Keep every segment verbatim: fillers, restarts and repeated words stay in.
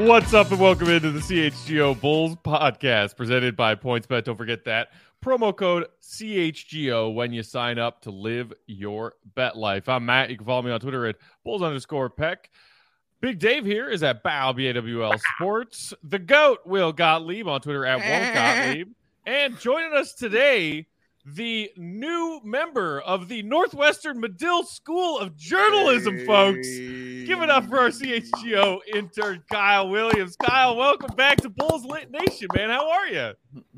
What's up and welcome into the C H G O Bulls podcast presented by PointsBet. Don't forget that promo code C H G O when you sign up to live your bet life. I'm Matt. You can follow me on Twitter at Bulls underscore Peck. Big Dave here is at B A W, B A W L Sports. The GOAT, Will Gottlieb, on Twitter at Will Gottlieb. And joining us today, the new member of the Northwestern Medill School of Journalism, hey. folks. Give it up for our C H G O intern, Kyle Williams. Kyle, welcome back to Bulls Lit Nation, man. How are you?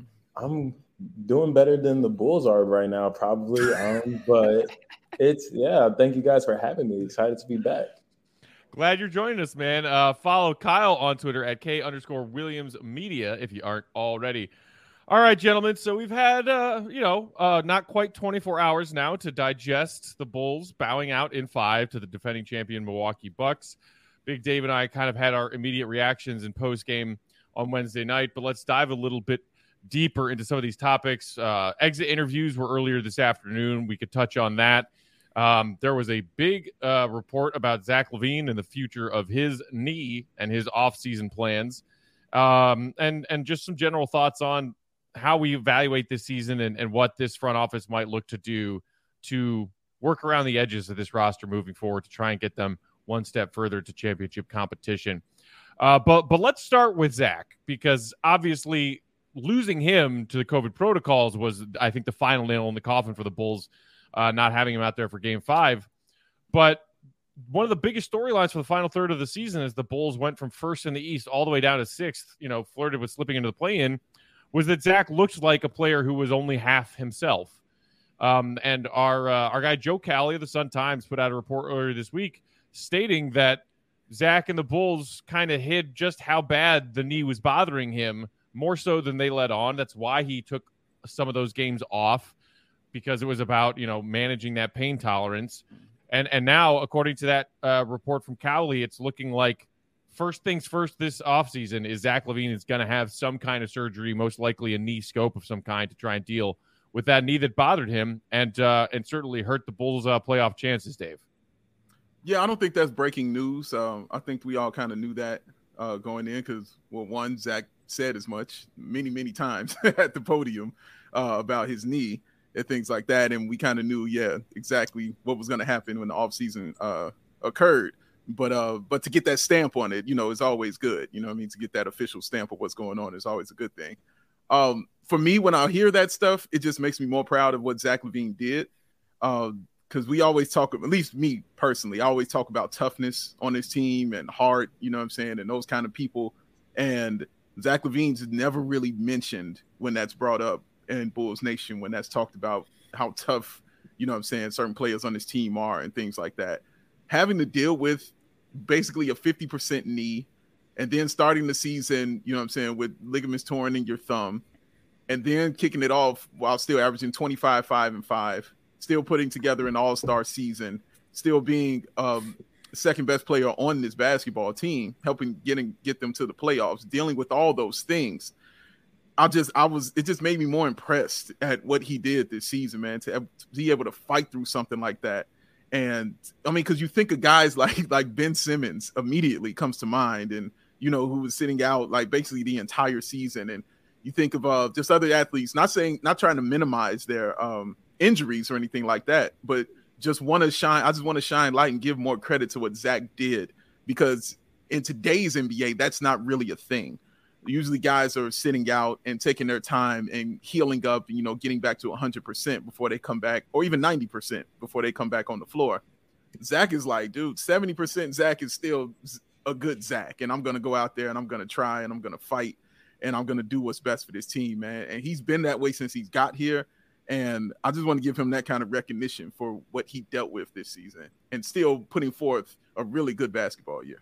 I'm doing better than the Bulls are right now, probably. Um, but it's, yeah, thank you guys for having me. Excited to be back. Glad you're joining us, man. Uh, follow Kyle on Twitter at K underscore Williams Media if you aren't already. All right, gentlemen. So we've had, uh, you know, uh, not quite twenty-four hours now to digest the Bulls bowing out in five to the defending champion Milwaukee Bucks. Big Dave and I kind of had our immediate reactions in post-game on Wednesday night, but let's dive a little bit deeper into some of these topics. Uh, exit interviews were earlier this afternoon. We could touch on that. Um, there was a big uh, report about Zach LaVine and the future of his knee and his off-season plans, um, and and just some general thoughts on how we evaluate this season and, and what this front office might look to do to work around the edges of this roster moving forward to try and get them one step further to championship competition. Uh, but but let's start with Zach, because obviously losing him to the COVID protocols was, I think, the final nail in the coffin for the Bulls, uh, not having him out there for game five. But one of the biggest storylines for the final third of the season is the Bulls went from first in the East all the way down to sixth, you know, flirted with slipping into the play-in, was that Zach looked like a player who was only half himself. Um, and our uh, our guy Joe Cowley of the Sun-Times put out a report earlier this week stating that Zach and the Bulls kind of hid just how bad the knee was bothering him, more so than they let on. That's why he took some of those games off, because it was about, you know, managing that pain tolerance. And and now, according to that uh, report from Cowley, it's looking like first things first this offseason is Zach LaVine is going to have some kind of surgery, most likely a knee scope of some kind, to try and deal with that knee that bothered him and uh, and certainly hurt the Bulls' uh, playoff chances, Dave. Yeah, I don't think that's breaking news. Um, I think we all kind of knew that uh, going in because, well, one, Zach said as much many, many times at the podium uh, about his knee and things like that. And we kind of knew, yeah, exactly what was going to happen when the offseason uh, occurred. But uh, but to get that stamp on it, you know, is always good. You know what I mean? To get that official stamp of what's going on is always a good thing. Um, for me, when I hear that stuff, it just makes me more proud of what Zach LaVine did. Because uh, we always talk, at least me personally, I always talk about toughness on his team and heart, you know what I'm saying, and those kind of people. And Zach LaVine's never really mentioned when that's brought up in Bulls Nation, when that's talked about how tough, you know what I'm saying, certain players on his team are and things like that. Having to deal with basically a fifty percent knee, and then starting the season, you know what I'm saying, with ligaments torn in your thumb, and then kicking it off while still averaging twenty-five, five, and five, still putting together an all-star season, still being um, the second best player on this basketball team, helping getting get them to the playoffs, dealing with all those things. I just, I was, it just made me more impressed at what he did this season, man, to be able to fight through something like that. And I mean, because you think of guys like like Ben Simmons immediately comes to mind, and you know, who was sitting out like basically the entire season. And you think of uh, just other athletes, not saying, not trying to minimize their um, injuries or anything like that, but just want to shine. I just want to shine light and give more credit to what Zach did, because in today's N B A, that's not really a thing. Usually guys are sitting out and taking their time and healing up and, you know, getting back to one hundred percent before they come back, or even ninety percent before they come back on the floor. Zach is like, dude, seventy percent Zach is still a good Zach, and I'm going to go out there and I'm going to try and I'm going to fight and I'm going to do what's best for this team, man. And he's been that way since he's got here. And I just want to give him that kind of recognition for what he dealt with this season and still putting forth a really good basketball year.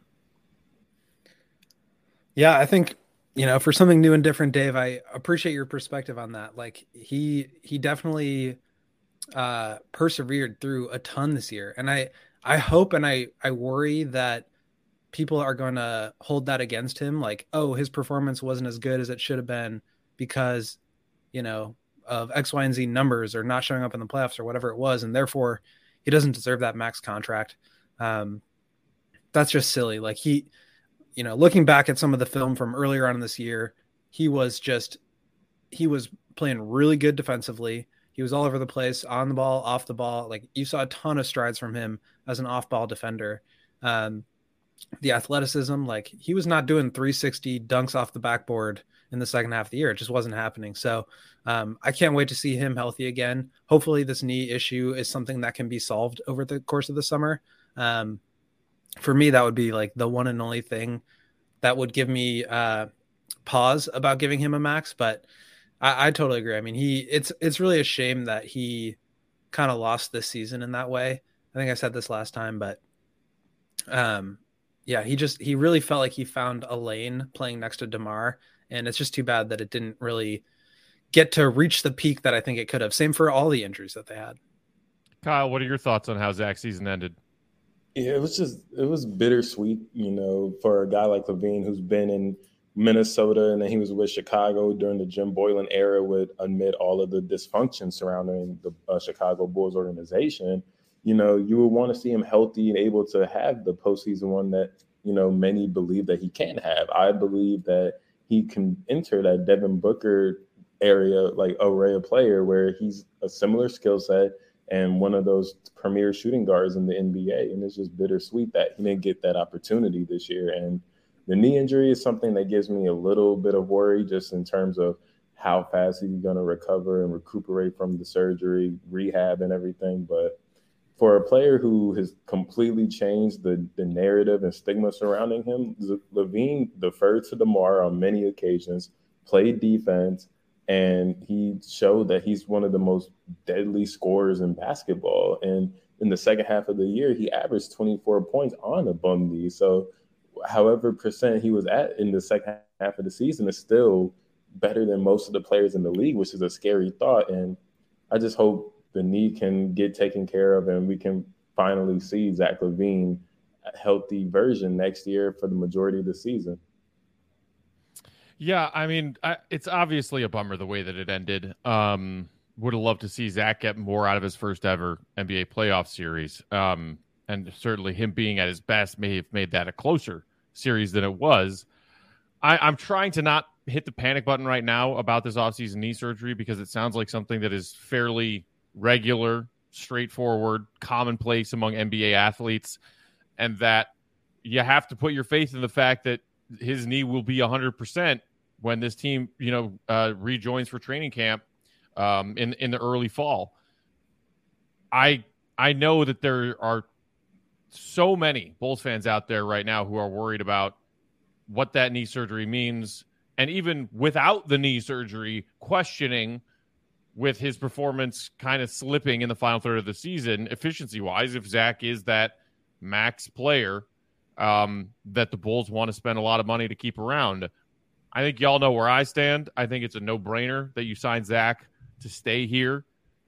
Yeah, I think, you know, for something new and different, Dave, I appreciate your perspective on that. Like he, he definitely uh, persevered through a ton this year. And I, I hope, and I, I worry that people are going to hold that against him. Like, oh, his performance wasn't as good as it should have been because, you know, of X, Y, and Z numbers or not showing up in the playoffs or whatever it was. And therefore he doesn't deserve that max contract. Um, that's just silly. Like he, you know, looking back at some of the film from earlier on in this year, he was just, he was playing really good defensively. He was all over the place, on the ball, off the ball. Like, you saw a ton of strides from him as an off-ball defender. Um, the athleticism, like, he was not doing three sixty dunks off the backboard in the second half of the year. It just wasn't happening. So um, I can't wait to see him healthy again. Hopefully this knee issue is something that can be solved over the course of the summer. Um, for me, that would be like the one and only thing that would give me uh, pause about giving him a max. But I, I totally agree. I mean, he it's it's really a shame that he kind of lost this season in that way. I think I said this last time, but um, yeah, he just he really felt like he found a lane playing next to DeMar, and it's just too bad that it didn't really get to reach the peak that I think it could have. Same for all the injuries that they had. Kyle, what are your thoughts on how Zach's season ended? Yeah, it was just it was bittersweet, you know, for a guy like LaVine who's been in Minnesota and then he was with Chicago during the Jim Boylan era, would admit all of the dysfunction surrounding the uh, Chicago Bulls organization. You know, you would want to see him healthy and able to have the postseason one that, you know, many believe that he can have. I believe that he can enter that Devin Booker area, like array of player, where he's a similar skill set and one of those premier shooting guards in the N B A. And it's just bittersweet that he didn't get that opportunity this year. And the knee injury is something that gives me a little bit of worry just in terms of how fast he's going to recover and recuperate from the surgery, rehab and everything. But for a player who has completely changed the, the narrative and stigma surrounding him, LaVine deferred to DeMar on many occasions, played defense, and he showed that he's one of the most deadly scorers in basketball. And in the second half of the year, he averaged twenty-four points on a bum knee. So however percent he was at in the second half of the season is still better than most of the players in the league, which is a scary thought. And I just hope the knee can get taken care of and we can finally see Zach LaVine a healthy version next year for the majority of the season. Yeah, I mean, I, it's obviously a bummer the way that it ended. Um, would have loved to see Zach get more out of his first ever N B A playoff series. Um, and certainly him being at his best may have made that a closer series than it was. I, I'm trying to not hit the panic button right now about this offseason knee surgery because it sounds like something that is fairly regular, straightforward, commonplace among N B A athletes, and that you have to put your faith in the fact that his knee will be one hundred percent when this team, you know, uh, rejoins for training camp um, in in the early fall. I I know that there are so many Bulls fans out there right now who are worried about what that knee surgery means, and even without the knee surgery, questioning with his performance kind of slipping in the final third of the season, efficiency-wise, if Zach is that max player um, that the Bulls want to spend a lot of money to keep around. I think y'all know where I stand. I think it's a no-brainer that you sign Zach to stay here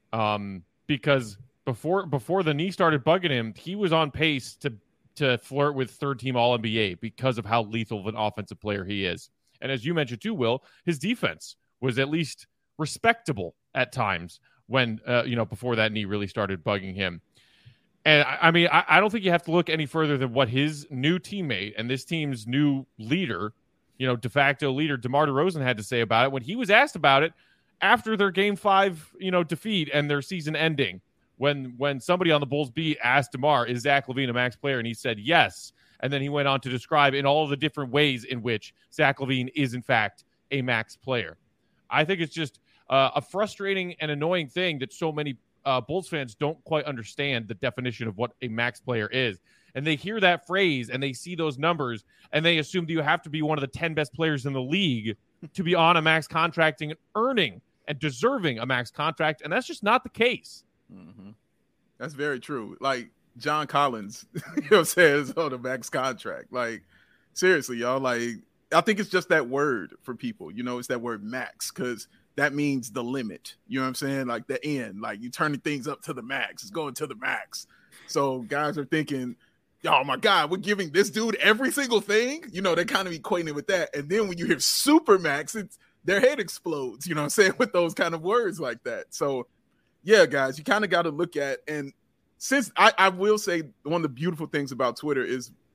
um, because before before the knee started bugging him, he was on pace to to flirt with third-team All N B A because of how lethal of an offensive player he is. And as you mentioned too, Will, his defense was at least respectable at times when, uh, you know, before that knee really started bugging him. And I, I mean, I, I don't think you have to look any further than what his new teammate and this team's new leader, you know, de facto leader, DeMar DeRozan had to say about it when he was asked about it after their game five, you know, defeat and their season ending. When when somebody on the Bulls beat asked DeMar, is Zach LaVine a max player? And he said yes. And then he went on to describe in all of the different ways in which Zach LaVine is, in fact, a max player. I think it's just uh, a frustrating and annoying thing that so many uh, Bulls fans don't quite understand the definition of what a max player is. And they hear that phrase and they see those numbers and they assume that you have to be one of the ten best players in the league to be on a max contract and earning and deserving a max contract. And that's just not the case. Mm-hmm. That's very true. Like John Collins, you know what I'm saying, is on a max contract. Like, seriously, y'all, like, I think it's just that word for people. You know, it's that word max because that means the limit. You know what I'm saying? Like the end. Like you turning things up to the max. It's going to the max. So guys are thinking, oh my God, we're giving this dude every single thing. You know, they kind of equating it with that. And then when you hear super max, it's their head explodes, you know what I'm saying, with those kind of words like that. So yeah, guys, you kind of got to look at, and since I, I will say one of the beautiful things about Twitter is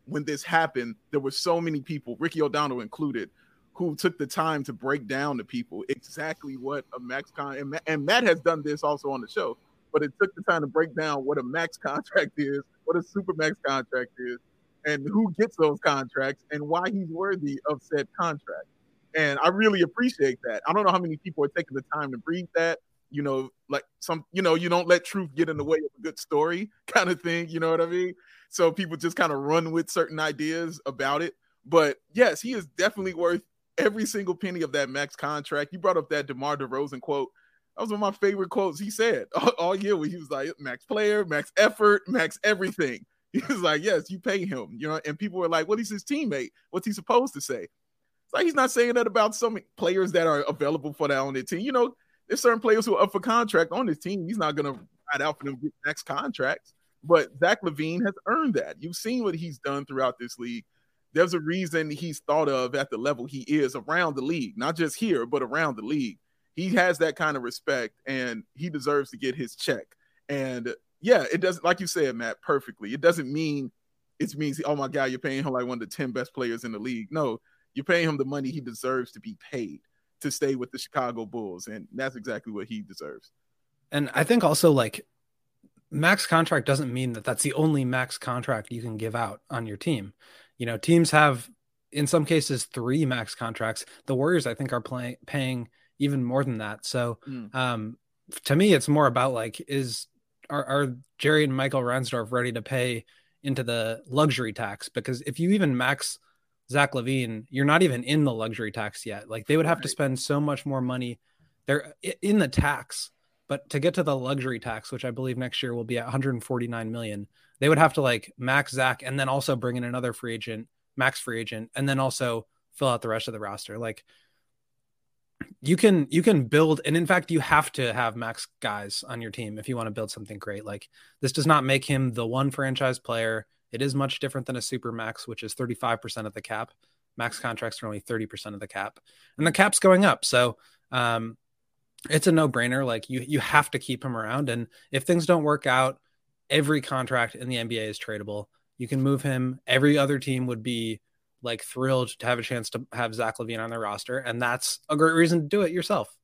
when this happened, there were so many people, Ricky O'Donnell included, who took the time to break down to people exactly what a max con and, and Matt has done this also on the show, but it took the time to break down what a max contract is, what a super max contract is, and who gets those contracts and why he's worthy of said contract. And I really appreciate that. I don't know how many people are taking the time to read that. You know, like some, you know, you don't let truth get in the way of a good story kind of thing. You know what I mean? So people just kind of run with certain ideas about it. But yes, he is definitely worth every single penny of that max contract. You brought up that DeMar DeRozan quote. That was one of my favorite quotes he said all, all year, where he was like, max player, max effort, max everything. He was like, yes, you pay him, you know, and people were like, what is his teammate? What's he supposed to say? It's like, he's not saying that about some players that are available for that on their team. You know, there's certain players who are up for contract on his team. He's not going to ride out for them to get max contracts, but Zach LaVine has earned that. You've seen what he's done throughout this league. There's a reason he's thought of at the level he is around the league, not just here, but around the league. He has that kind of respect, and he deserves to get his check. And yeah, it doesn't, like you said, Matt, perfectly. It doesn't mean it means, oh my God, you're paying him like one of the ten best players in the league. No, you're paying him the money he deserves to be paid to stay with the Chicago Bulls. And that's exactly what he deserves. And I think also, like, max contract doesn't mean that that's the only max contract you can give out on your team. You know, teams have, in some cases, three max contracts. The Warriors, I think, are playing paying even more than that. So mm. um, to me, it's more about like, is are, are Jerry and Michael Reinsdorf ready to pay into the luxury tax? Because if you even max Zach LaVine, you're not even in the luxury tax yet. Like, they would have right. to spend so much more money. They're in the tax, but to get to the luxury tax, which I believe next year will be at one hundred forty-nine million, they would have to like max Zach and then also bring in another free agent, max free agent, and then also fill out the rest of the roster. Like, you can, you can build. And in fact, you have to have max guys on your team if you want to build something great. Like, this does not make him the one franchise player. It is much different than a super max, which is thirty-five percent of the cap. Max contracts are only thirty percent of the cap, and the cap's going up. So um, it's a no brainer. Like, you, you have to keep him around. And if things don't work out, every contract in the N B A is tradable. You can move him. Every other team would be like thrilled to have a chance to have Zach LaVine on their roster. And that's a great reason to do it yourself.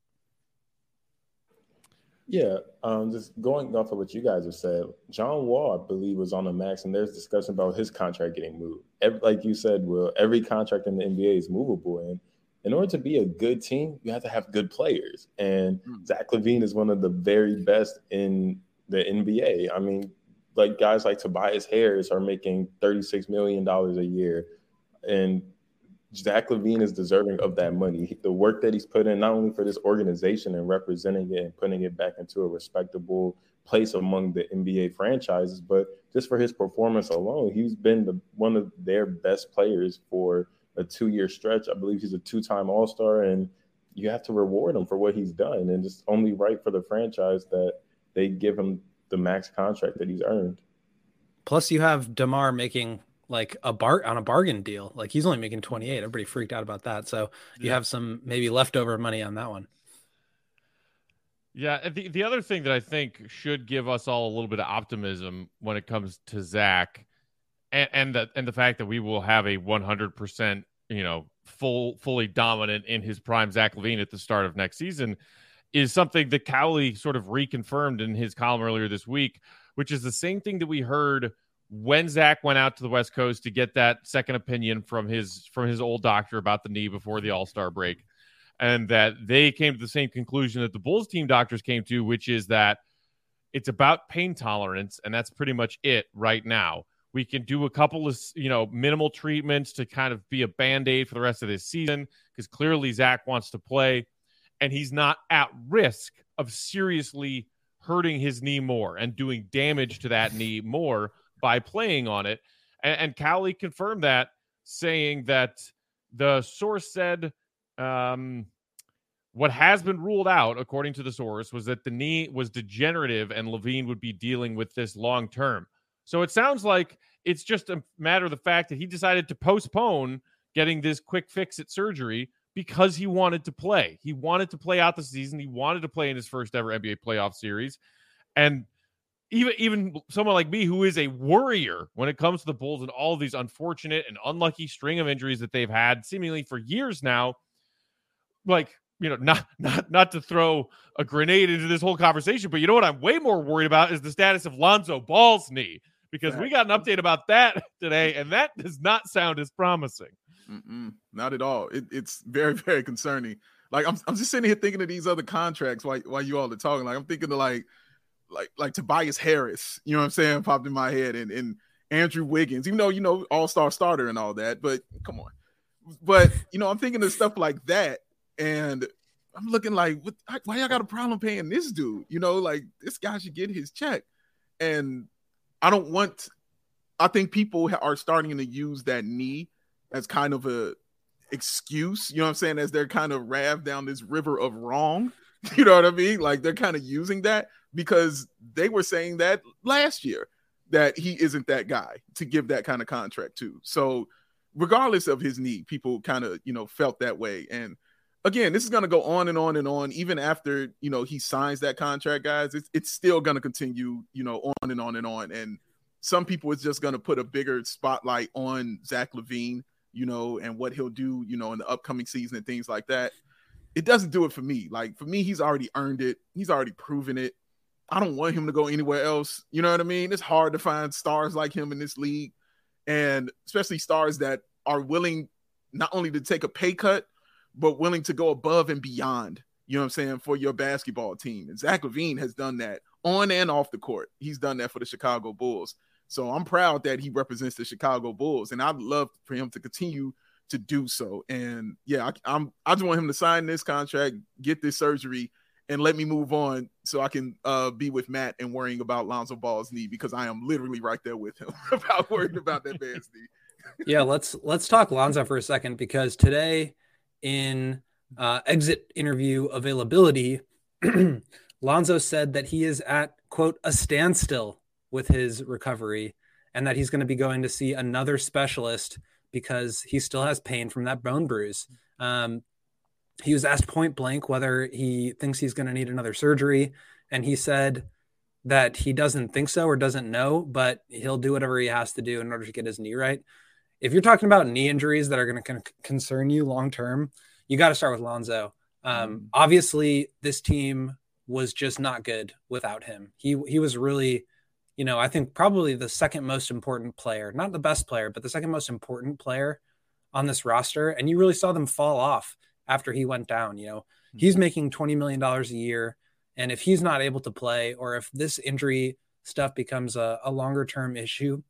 Yeah. Um, just going off of what you guys have said, John Wall, I believe, was on the max, and there's discussion about his contract getting moved. Every, like you said, Will, every contract in the N B A is movable. And in order to be a good team, you have to have good players. And mm. Zach LaVine is one of the very best in the N B A. I mean, like, guys like Tobias Harris are making thirty-six million dollars a year. And Zach LaVine is deserving of that money. The work that he's put in, not only for this organization and representing it and putting it back into a respectable place among the N B A franchises, but just for his performance alone, he's been the, one of their best players for a two-year stretch. I believe he's a two-time All-Star, and you have to reward him for what he's done. And it's only right for the franchise that they give him the max contract that he's earned. Plus, you have DeMar making like a bar on a bargain deal. Like, he's only making twenty-eight. Everybody freaked out about that. So yeah. you have some maybe leftover money on that one. Yeah. The, the other thing that I think should give us all a little bit of optimism when it comes to Zach, and, and the, and the fact that we will have a one hundred percent, you know, full, fully dominant in his prime Zach LaVine at the start of next season, is something that Cowley sort of reconfirmed in his column earlier this week, which is the same thing that we heard when Zach went out to the West Coast to get that second opinion from his from his old doctor about the knee before the All-Star break, and that they came to the same conclusion that the Bulls team doctors came to, which is that it's about pain tolerance, and that's pretty much it right now. We can do a couple of, you know, minimal treatments to kind of be a Band-Aid for the rest of this season, because clearly Zach wants to play, and he's not at risk of seriously hurting his knee more and doing damage to that knee more by playing on it. And, and Cowley confirmed that, saying that the source said um, what has been ruled out, according to the source, was that the knee was degenerative and LaVine would be dealing with this long term. So it sounds like it's just a matter of the fact that he decided to postpone getting this quick fix at surgery because he wanted to play. He wanted to play out the season. He wanted to play in his first ever N B A playoff series. And even even someone like me who is a worrier when it comes to the Bulls and all of these unfortunate and unlucky string of injuries that they've had seemingly for years now, like, you know, not not not to throw a grenade into this whole conversation, but you know what I'm way more worried about is the status of Lonzo Ball's knee, because we got an update about that today, and that does not sound as promising. Mm-mm, not at all. It, it's very, very concerning. Like, I'm I'm just sitting here thinking of these other contracts while while you all are talking. Like, I'm thinking of like like like Tobias Harris, you know what I'm saying, popped in my head, and and Andrew Wiggins, even though, you know, all-star starter and all that, but come on. But, you know, I'm thinking of stuff like that, and I'm looking like, what, why y'all got a problem paying this dude? You know, like, this guy should get his check. And I don't want, I think people are starting to use that knee as kind of a excuse, you know what I'm saying, as they're kind of rav down this river of wrong. You know what I mean? Like, they're kind of using that because they were saying that last year, that he isn't that guy to give that kind of contract to. So regardless of his knee, people kind of, you know, felt that way. And again, this is going to go on and on and on, even after, you know, he signs that contract, guys. It's, it's still going to continue, you know, on and on and on. And some people is just going to put a bigger spotlight on Zach LaVine, you know, and what he'll do, you know, in the upcoming season and things like that. It doesn't do it for me. Like, for me, he's already earned it. He's already proven it. I don't want him to go anywhere else. You know what I mean? It's hard to find stars like him in this league, and especially stars that are willing not only to take a pay cut, but willing to go above and beyond, you know what I'm saying, for your basketball team. And Zach LaVine has done that on and off the court. He's done that for the Chicago Bulls. So I'm proud that he represents the Chicago Bulls, and I'd love for him to continue to do so. And yeah, I, I'm, I just want him to sign this contract, get this surgery, and let me move on so I can uh, be with Matt and worrying about Lonzo Ball's knee, because I am literally right there with him about worrying about that man's knee. Yeah, let's let's talk Lonzo for a second, because today in uh, exit interview availability, Lonzo said that he is at, quote, a standstill with his recovery, and that he's going to be going to see another specialist because he still has pain from that bone bruise. Um, he was asked point blank whether he thinks he's going to need another surgery, and he said that he doesn't think so or doesn't know, but he'll do whatever he has to do in order to get his knee right. If you're talking about knee injuries that are going to con- concern you long-term, you got to start with Lonzo. Um, mm. Obviously, this team was just not good without him. He he was really, you know, I think probably the second most important player, not the best player, but the second most important player on this roster. And you really saw them fall off after he went down. You know, mm-hmm. He's making twenty million dollars a year. And if he's not able to play, or if this injury stuff becomes a, a longer term issue,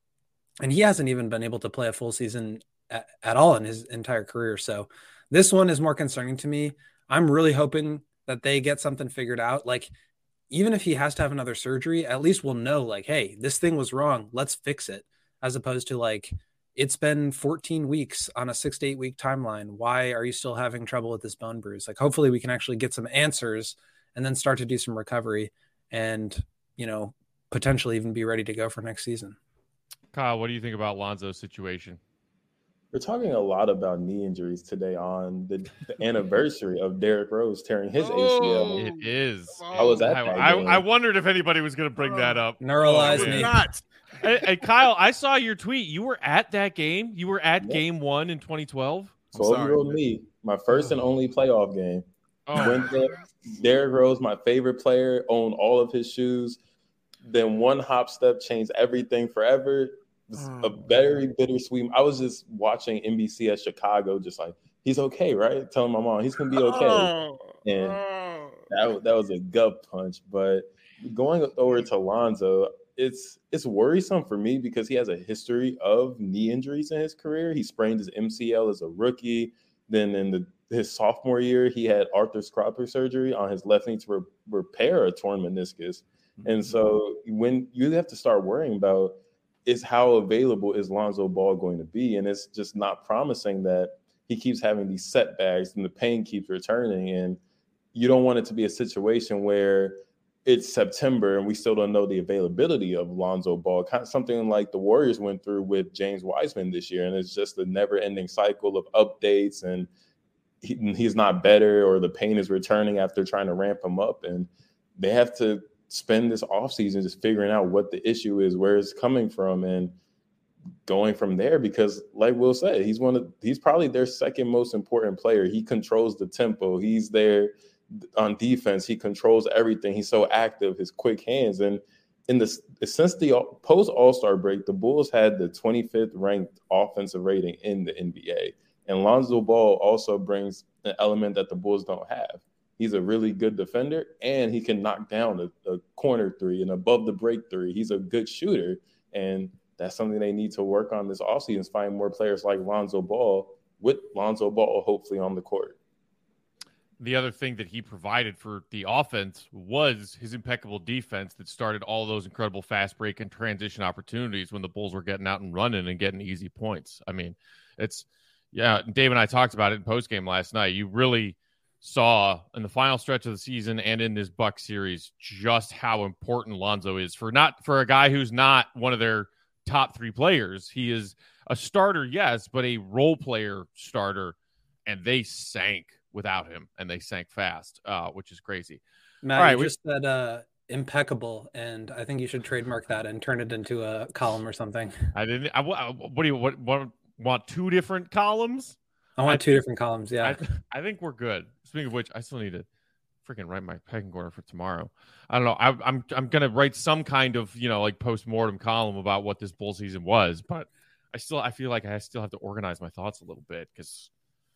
and he hasn't even been able to play a full season at, at all in his entire career. So this one is more concerning to me. I'm really hoping that they get something figured out. Like, even if he has to have another surgery, at least we'll know, like, hey, this thing was wrong, let's fix it. As opposed to, like, it's been fourteen weeks on a six to eight week timeline. Why are you still having trouble with this bone bruise? Like, hopefully we can actually get some answers and then start to do some recovery and, you know, potentially even be ready to go for next season. Kyle, what do you think about Lonzo's situation? We're talking a lot about knee injuries today on the, the anniversary of Derrick Rose tearing his oh, A C L. It is. I was at I, that I, game. I wondered if anybody was going to bring that up. Neuralize oh, me. Not. Hey, hey, Kyle, I saw your tweet. You were at that game. You were at yep. game one in twenty twelve. twelve-year-old me, my first and only playoff game. Oh. Went there. Derrick Rose, my favorite player, owned all of his shoes. Then one hop step changed everything forever. It was a very bittersweet. I was just watching N B C at Chicago, just like, he's okay, right? Telling my mom he's gonna be okay. And that, that was a gut punch. But going over to Lonzo, it's it's worrisome for me because he has a history of knee injuries in his career. He sprained his M C L as a rookie. Then in the his sophomore year, he had arthroscopic surgery on his left knee to re- repair a torn meniscus. Mm-hmm. And so when you have to start worrying about is how available is Lonzo Ball going to be? And it's just not promising that he keeps having these setbacks and the pain keeps returning. And you don't want it to be a situation where it's September and we still don't know the availability of Lonzo Ball, kind of something like the Warriors went through with James Wiseman this year. And it's just a never ending cycle of updates, and he, he's not better, or the pain is returning after trying to ramp him up. And they have to spend this offseason just figuring out what the issue is, where it's coming from, and going from there. Because like Will said, he's one of he's probably their second most important player. He controls the tempo. He's there on defense. He controls everything. He's so active, his quick hands. And in the since the post All-Star break, the Bulls had the twenty-fifth ranked offensive rating in the N B A. And Lonzo Ball also brings an element that the Bulls don't have. He's a really good defender, and he can knock down a, a corner three and above the break three. He's a good shooter, and that's something they need to work on this offseason, is find more players like Lonzo Ball, with Lonzo Ball hopefully on the court. The other thing that he provided for the offense was his impeccable defense that started all those incredible fast break and transition opportunities when the Bulls were getting out and running and getting easy points. I mean, it's, yeah, Dave and I talked about it in postgame last night. You really saw in the final stretch of the season and in this Bucks series just how important Lonzo is for not for a guy who's not one of their top three players. He is a starter, yes, but a role player starter, and they sank without him, and they sank fast, uh, which is crazy. Matt, All right, you we, just said uh, impeccable, and I think you should trademark that and turn it into a column or something. I didn't. I, I, what do you what, what want? Two different columns? I want I two think, different columns. Yeah, I, I think we're good. Speaking of which, I still need to freaking write my pecking order for tomorrow. I don't know. I, I'm I'm gonna write some kind of you know like post-mortem column about what this Bull season was, but I still I feel like I still have to organize my thoughts a little bit because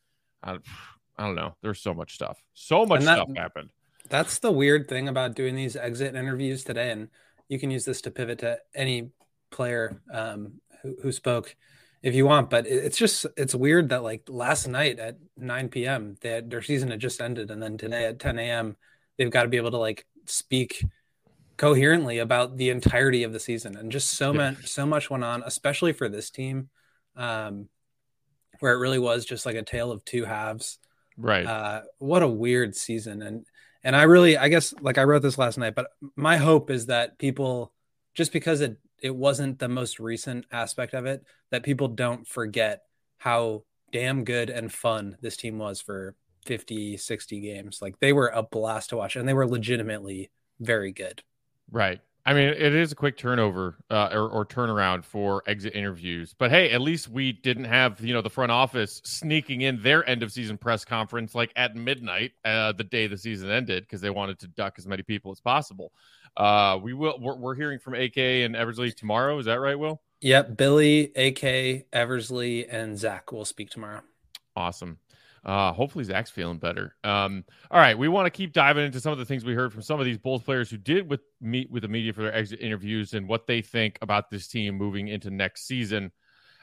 I. I don't know. There's so much stuff. So much that, stuff happened. That's the weird thing about doing these exit interviews today. And you can use this to pivot to any player um, who, who spoke if you want. But it's just, it's weird that like last night at nine p.m., they had, their season had just ended. And then today at ten a.m., they've got to be able to like speak coherently about the entirety of the season. And just so yeah. much, so much went on, especially for this team, um, where it really was just like a tale of two halves. Right. Uh, what a weird season. And, and I really, I guess, like I wrote this last night, but my hope is that people, just because it, it wasn't the most recent aspect of it, that people don't forget how damn good and fun this team was for fifty, sixty games. Like they were a blast to watch, and they were legitimately very good. Right. I mean, it is a quick turnover uh, or, or turnaround for exit interviews. But, hey, at least we didn't have, you know, the front office sneaking in their end-of-season press conference like at midnight uh, the day the season ended because they wanted to duck as many people as possible. Uh, we will. We're, we're hearing from A K and Eversley tomorrow. Is that right, Will? Yep. Billy, A K, Eversley, and Zach will speak tomorrow. Awesome. Uh, hopefully Zach's feeling better. Um, all right, we want to keep diving into some of the things we heard from some of these Bulls players who did with meet with the media for their exit interviews and what they think about this team moving into next season.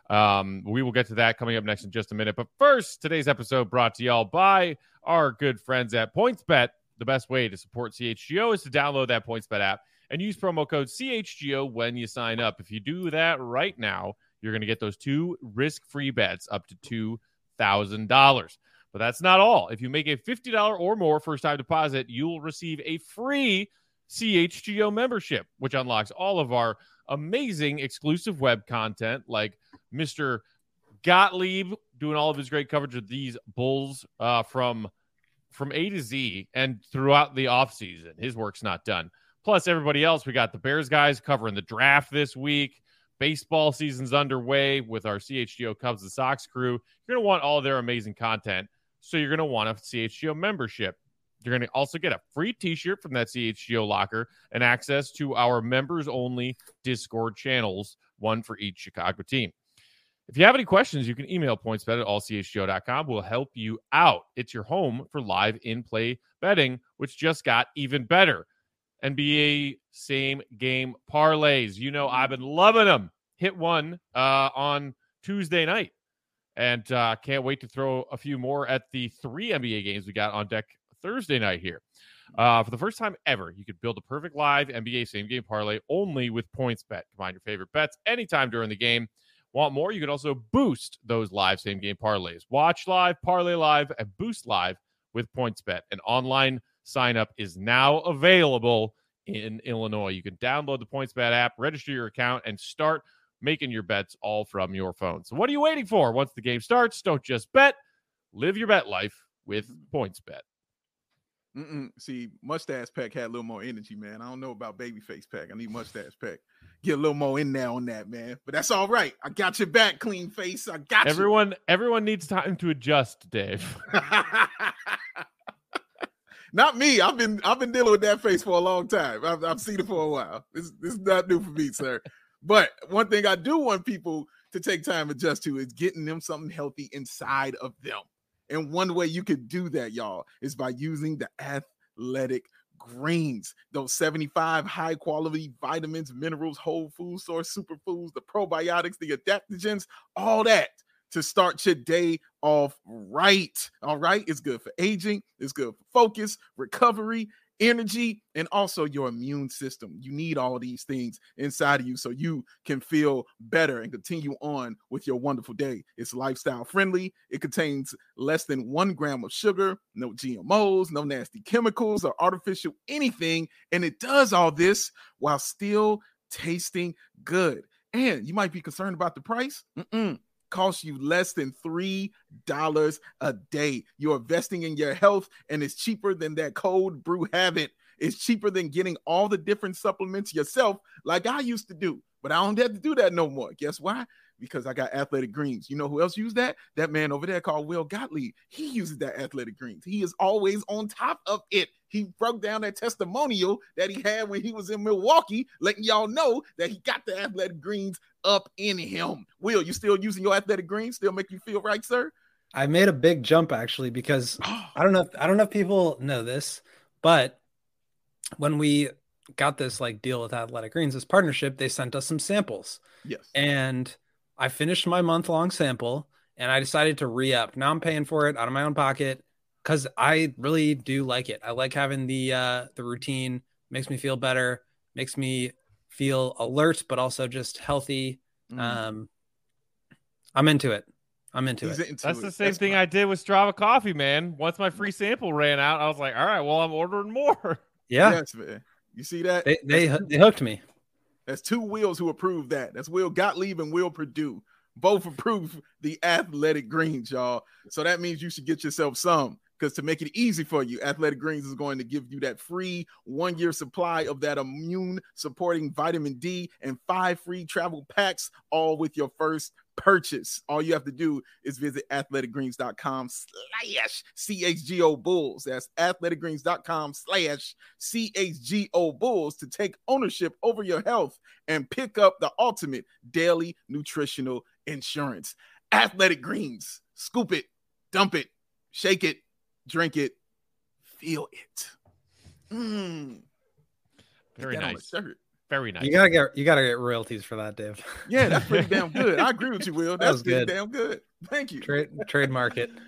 Um, we will get to that coming up next in just a minute. But first, today's episode brought to y'all by our good friends at PointsBet. The best way to support C H G O is to download that PointsBet app and use promo code C H G O when you sign up. If you do that right now, you're going to get those two risk-free bets up to two thousand dollars. But that's not all. If you make a fifty dollars or more first-time deposit, you'll receive a free C H G O membership, which unlocks all of our amazing exclusive web content like Mister Gottlieb doing all of his great coverage of these Bulls uh, from, from A to Z and throughout the offseason. His work's not done. Plus, everybody else, we got the Bears guys covering the draft this week. Baseball season's underway with our C H G O Cubs and Sox crew. You're going to want all their amazing content. So you're going to want a C H G O membership. You're going to also get a free t-shirt from that C H G O locker and access to our members-only Discord channels, one for each Chicago team. If you have any questions, you can email pointsbet at all c h g o dot com. We'll help you out. It's your home for live in-play betting, which just got even better. N B A same-game parlays. You know I've been loving them. Hit one uh, on Tuesday night. And uh, can't wait to throw a few more at the three N B A games we got on deck Thursday night here. Uh, for the first time ever, you could build a perfect live N B A same-game parlay only with PointsBet. Combine your favorite bets anytime during the game. Want more? You can also boost those live same-game parlays. Watch live, parlay live, and boost live with PointsBet. An online sign-up is now available in Illinois. You can download the PointsBet app, register your account, and start making your bets all from your phone. So what are you waiting for? Once the game starts, don't just bet. Live your bet life with PointsBet. Mm-mm. See, Mustache Pack had a little more energy, man. I don't know about Babyface Pack. I need Mustache Pack. Get a little more in there on that, man. But that's all right. I got your back, Clean Face. I got everyone, you. Everyone needs time to adjust, Dave. Not me. I've been I've been dealing with that face for a long time. I've, I've seen it for a while. This, this is not new for me, sir. But one thing I do want people to take time to adjust to is getting them something healthy inside of them. And one way you could do that, y'all, is by using the Athletic Greens. Those seventy-five high-quality vitamins, minerals, whole food source, superfoods, the probiotics, the adaptogens, all that to start your day off right. All right? It's good for aging. It's good for focus, recovery, energy, and also your immune system. You need all these things inside of you so you can feel better and continue on with your wonderful day. It's lifestyle friendly. It contains less than one gram of sugar, no G M Os, no nasty chemicals or artificial anything. And it does all this while still tasting good. And you might be concerned about the price. Mm-mm. Costs you less than three dollars a day. You're investing in your health, and it's cheaper than that cold brew habit. It's cheaper than getting all the different supplements yourself like I used to do. But I don't have to do that no more. Guess why? Because I got Athletic Greens. You know who else used that? That man over there called Will Gottlieb. He uses that Athletic Greens. He is always on top of it. He broke down that testimonial that he had when he was in Milwaukee, letting y'all know that he got the Athletic Greens up in him. Will, you still using your Athletic Greens? Still make you feel right, sir? I made a big jump actually because I don't know if, I don't know if people know this, but when we got this like deal with Athletic Greens, this partnership, they sent us some samples. Yes. And I finished my month-long sample and I decided to re-up. Now I'm paying for it out of my own pocket because I really do like it. I like having the uh, the routine. Makes me feel better. Makes me feel alert, but also just healthy. Mm. Um, I'm into it. I'm into He's it. Into That's it. the same That's thing fine. I did with Strava Coffee, man. Once my free sample ran out, I was like, all right, well, I'm ordering more. Yeah. Yes, man. You see that? They they, they hooked me. That's two Wills who approved that. That's Will Gottlieb and Will Purdue. Both approve the Athletic Greens, y'all. So that means you should get yourself some, because to make it easy for you, Athletic Greens is going to give you that free one-year supply of that immune-supporting vitamin D and five free travel packs, all with your first purchase. All you have to do is visit athleticgreens.com slash CHGO Bulls. That's athleticgreens.com slash CHGO Bulls to take ownership over your health and pick up the ultimate daily nutritional insurance. Athletic Greens. Scoop it, dump it, shake it, drink it, feel it. Mm. Very nice. Very nice. You gotta get you gotta get royalties for that, Dave. Yeah, that's pretty damn good. I agree with you, Will. That's That pretty good. damn good. Thank you. Trade trademark it.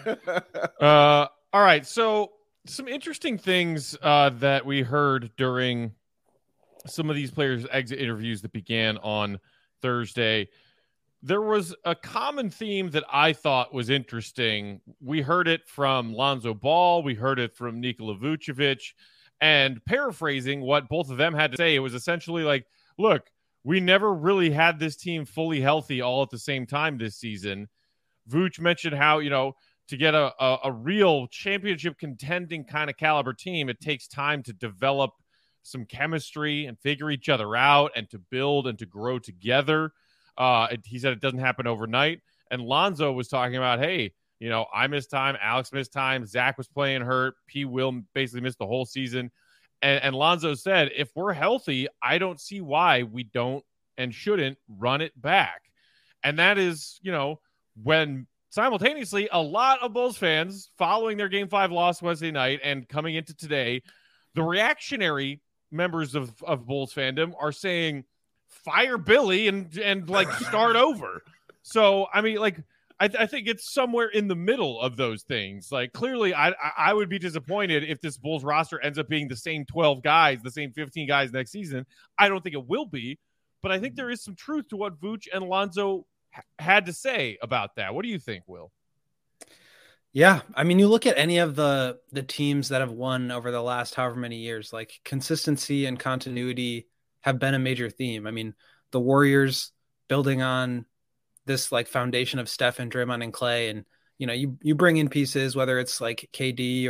uh, all right. So some interesting things uh, that we heard during some of these players' exit interviews that began on Thursday. There was a common theme that I thought was interesting. We heard it from Lonzo Ball. We heard it from Nikola Vucevic. And paraphrasing what both of them had to say, it was essentially like, look, we never really had this team fully healthy all at the same time this season. Vooch mentioned how, you know, to get a, a, a real championship contending kind of caliber team, it takes time to develop some chemistry and figure each other out and to build and to grow together. Uh, it, he said it doesn't happen overnight. And Lonzo was talking about, hey, you know, I missed time. Alex missed time. Zach was playing hurt. P. Will basically missed the whole season. And, and Lonzo said, if we're healthy, I don't see why we don't and shouldn't run it back. And that is, you know, when simultaneously a lot of Bulls fans following their game five loss Wednesday night and coming into today, the reactionary members of, of Bulls fandom are saying, fire Billy and, and like start over. So, I mean, like, I, th- I think it's somewhere in the middle of those things. Like, clearly, I I would be disappointed if this Bulls roster ends up being the same twelve guys, the same fifteen guys next season. I don't think it will be, but I think there is some truth to what Vooch and Lonzo ha- had to say about that. What do you think, Will? Yeah, I mean, you look at any of the the teams that have won over the last however many years, like consistency and continuity have been a major theme. I mean, the Warriors building on this like foundation of Steph and Draymond and Clay, and you know, you you bring in pieces, whether it's like K D or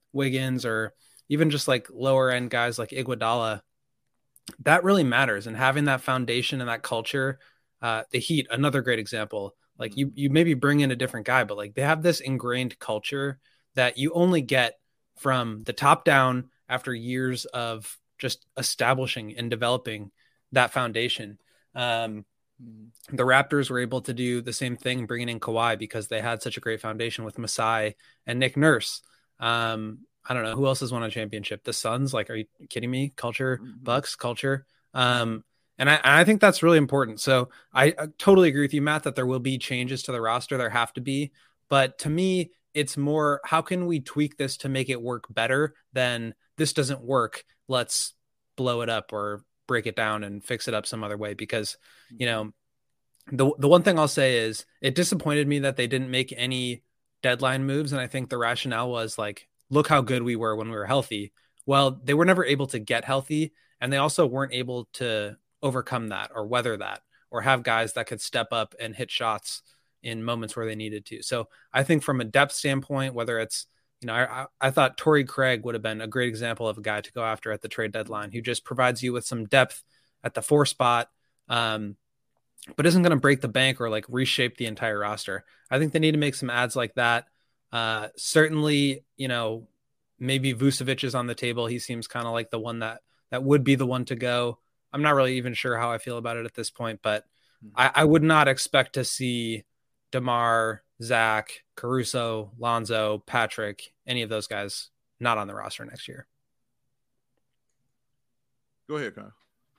Wiggins or even just like lower end guys like Iguodala, that really matters. And having that foundation and that culture, uh, the Heat, another great example. Like you, you maybe bring in a different guy, but like they have this ingrained culture that you only get from the top down after years of just establishing and developing that foundation. Um, the Raptors were able to do the same thing, bringing in Kawhi because they had such a great foundation with Masai and Nick Nurse. Um, I don't know who else has won a championship. The Suns, like, are you kidding me? Culture, Bucks, culture. Um, and I, I think that's really important. So I, I totally agree with you, Matt, that there will be changes to the roster. There have to be, but to me, it's more, how can we tweak this to make it work better than this doesn't work? Let's blow it up or break it down and fix it up some other way. Because, you know, the, the one thing I'll say is it disappointed me that they didn't make any deadline moves. And I think the rationale was like, look how good we were when we were healthy. Well, they were never able to get healthy, and they also weren't able to overcome that or weather that or have guys that could step up and hit shots in moments where they needed to. So I think from a depth standpoint, whether it's, you know, I, I thought Torrey Craig would have been a great example of a guy to go after at the trade deadline, who just provides you with some depth at the four spot, um, but isn't going to break the bank or like reshape the entire roster. I think they need to make some ads like that. Uh, certainly, you know, maybe Vucevic is on the table. He seems kind of like the one that, that would be the one to go. I'm not really even sure how I feel about it at this point, but mm-hmm. I, I would not expect to see DeMar, Zach, Caruso, Lonzo, Patrick, any of those guys not on the roster next year. Go ahead, Kyle.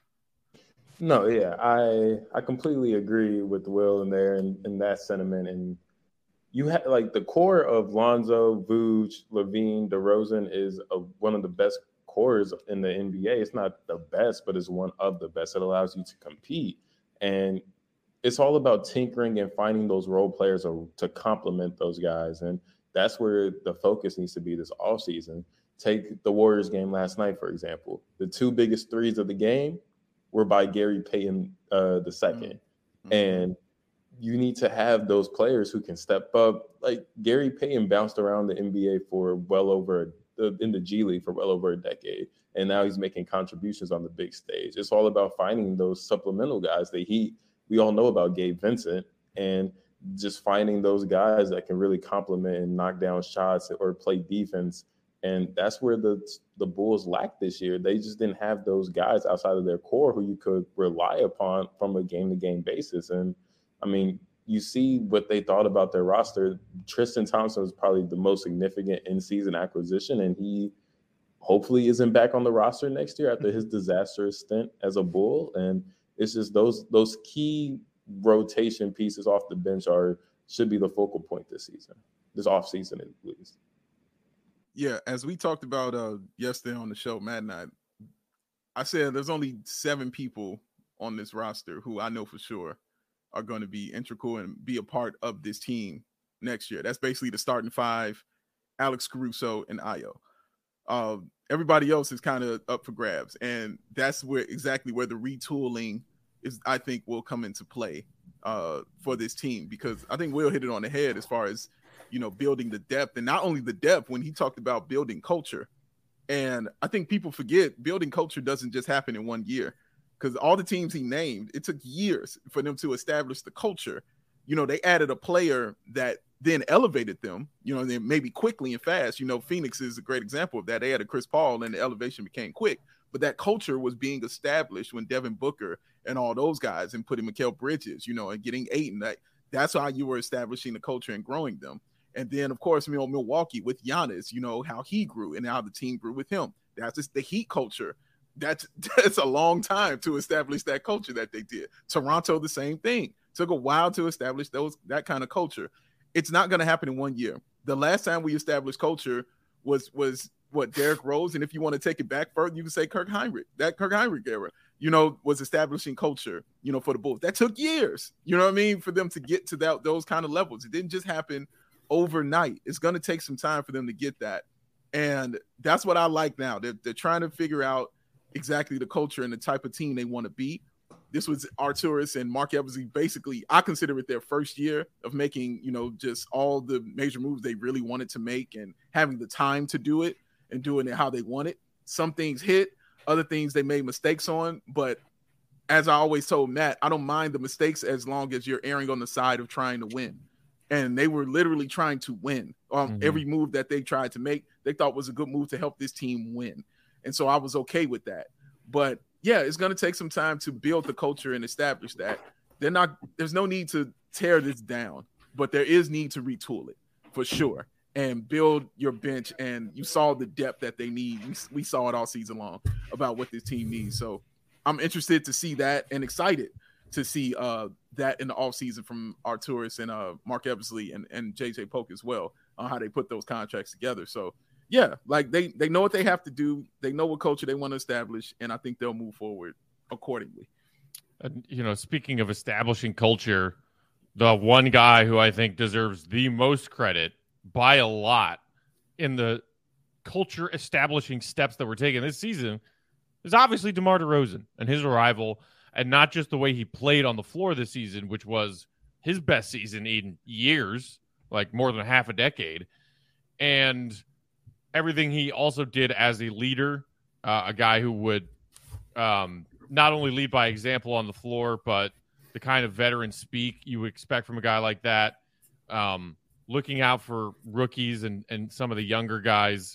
No, yeah, I I completely agree with Will in there and in, in that sentiment. And you have like the core of Lonzo, Vooch, Levine, DeRozan is a, one of the best cores in the N B A. It's not the best, but it's one of the best. It allows you to compete. And it's all about tinkering and finding those role players to complement those guys. And that's where the focus needs to be this offseason. Take the Warriors game last night, for example. The two biggest threes of the game were by Gary Payton uh, the second. Mm-hmm. And you need to have those players who can step up. Like Gary Payton bounced around the N B A for well over in the G League for well over a decade. And now he's making contributions on the big stage. It's all about finding those supplemental guys. The Heat, we all know about Gabe Vincent, and just finding those guys that can really complement and knock down shots or play defense. And that's where the the Bulls lacked this year. They just didn't have those guys outside of their core who you could rely upon from a game-to-game basis. And I mean, you see what they thought about their roster. Tristan Thompson was probably the most significant in-season acquisition, and he hopefully isn't back on the roster next year after his disastrous stint as a Bull. And it's just those those key rotation pieces off the bench are should be the focal point this season, this offseason at least. Yeah, as we talked about uh, yesterday on the show, Matt and I, I said there's only seven people on this roster who I know for sure are going to be integral and be a part of this team next year. That's basically the starting five, Alex Caruso and Ayo. Uh, everybody else is kind of up for grabs. And that's where exactly where the retooling is, I think, will come into play uh, for this team, because I think Will hit it on the head as far as, you know, building the depth, and not only the depth when he talked about building culture. And I think people forget building culture doesn't just happen in one year, because all the teams he named, it took years for them to establish the culture. You know, they added a player that then elevated them, you know, then maybe quickly and fast. You know, Phoenix is a great example of that. They had a Chris Paul and the elevation became quick, but that culture was being established when Devin Booker and all those guys and putting Mikal Bridges, you know, and getting Ayton. That, that's how you were establishing the culture and growing them. And then, of course, you know, Milwaukee with Giannis, you know, how he grew and how the team grew with him. That's just the Heat culture. That's, that's a long time to establish that culture that they did. Toronto, the same thing. Took a while to establish those that kind of culture. It's not going to happen in one year. The last time we established culture was, was what, Derrick Rose? And if you want to take it back further, you can say Kirk Hinrich. That Kirk Hinrich era, you know, was establishing culture, you know, for the Bulls. That took years, you know what I mean, for them to get to that those kind of levels. It didn't just happen overnight. It's going to take some time for them to get that. And that's what I like now. They're, they're trying to figure out exactly the culture and the type of team they want to be. This was Arturas and Mark Eversley. Basically, I consider it their first year of making, you know, just all the major moves they really wanted to make and having the time to do it. and doing it how they want it. Some things hit, other things they made mistakes on. But as I always told Matt, I don't mind the mistakes as long as you're erring on the side of trying to win. And they were literally trying to win. Um, mm-hmm. Every move that they tried to make, they thought was a good move to help this team win. And so I was okay with that. But yeah, it's going to take some time to build the culture and establish that. They're not, there's no need to tear this down, but there is need to retool it for sure and build your bench. And you saw the depth that they need. We, we saw it all season long about what this team needs. So I'm interested to see that and excited to see uh, that in the offseason from Arturas and uh, Mark Eversley and, and J J Polk as well on how they put those contracts together. So yeah, like they, they know what they have to do. They know what culture they want to establish, and I think they'll move forward accordingly. And, you know, speaking of establishing culture, the one guy who I think deserves the most credit by a lot in the culture establishing steps that were taken this season is obviously DeMar DeRozan and his arrival, and not just the way he played on the floor this season, which was his best season in years, like more than half a decade, and everything he also did as a leader, uh, a guy who would um, not only lead by example on the floor, but the kind of veteran speak you would expect from a guy like that, um, looking out for rookies and, and some of the younger guys.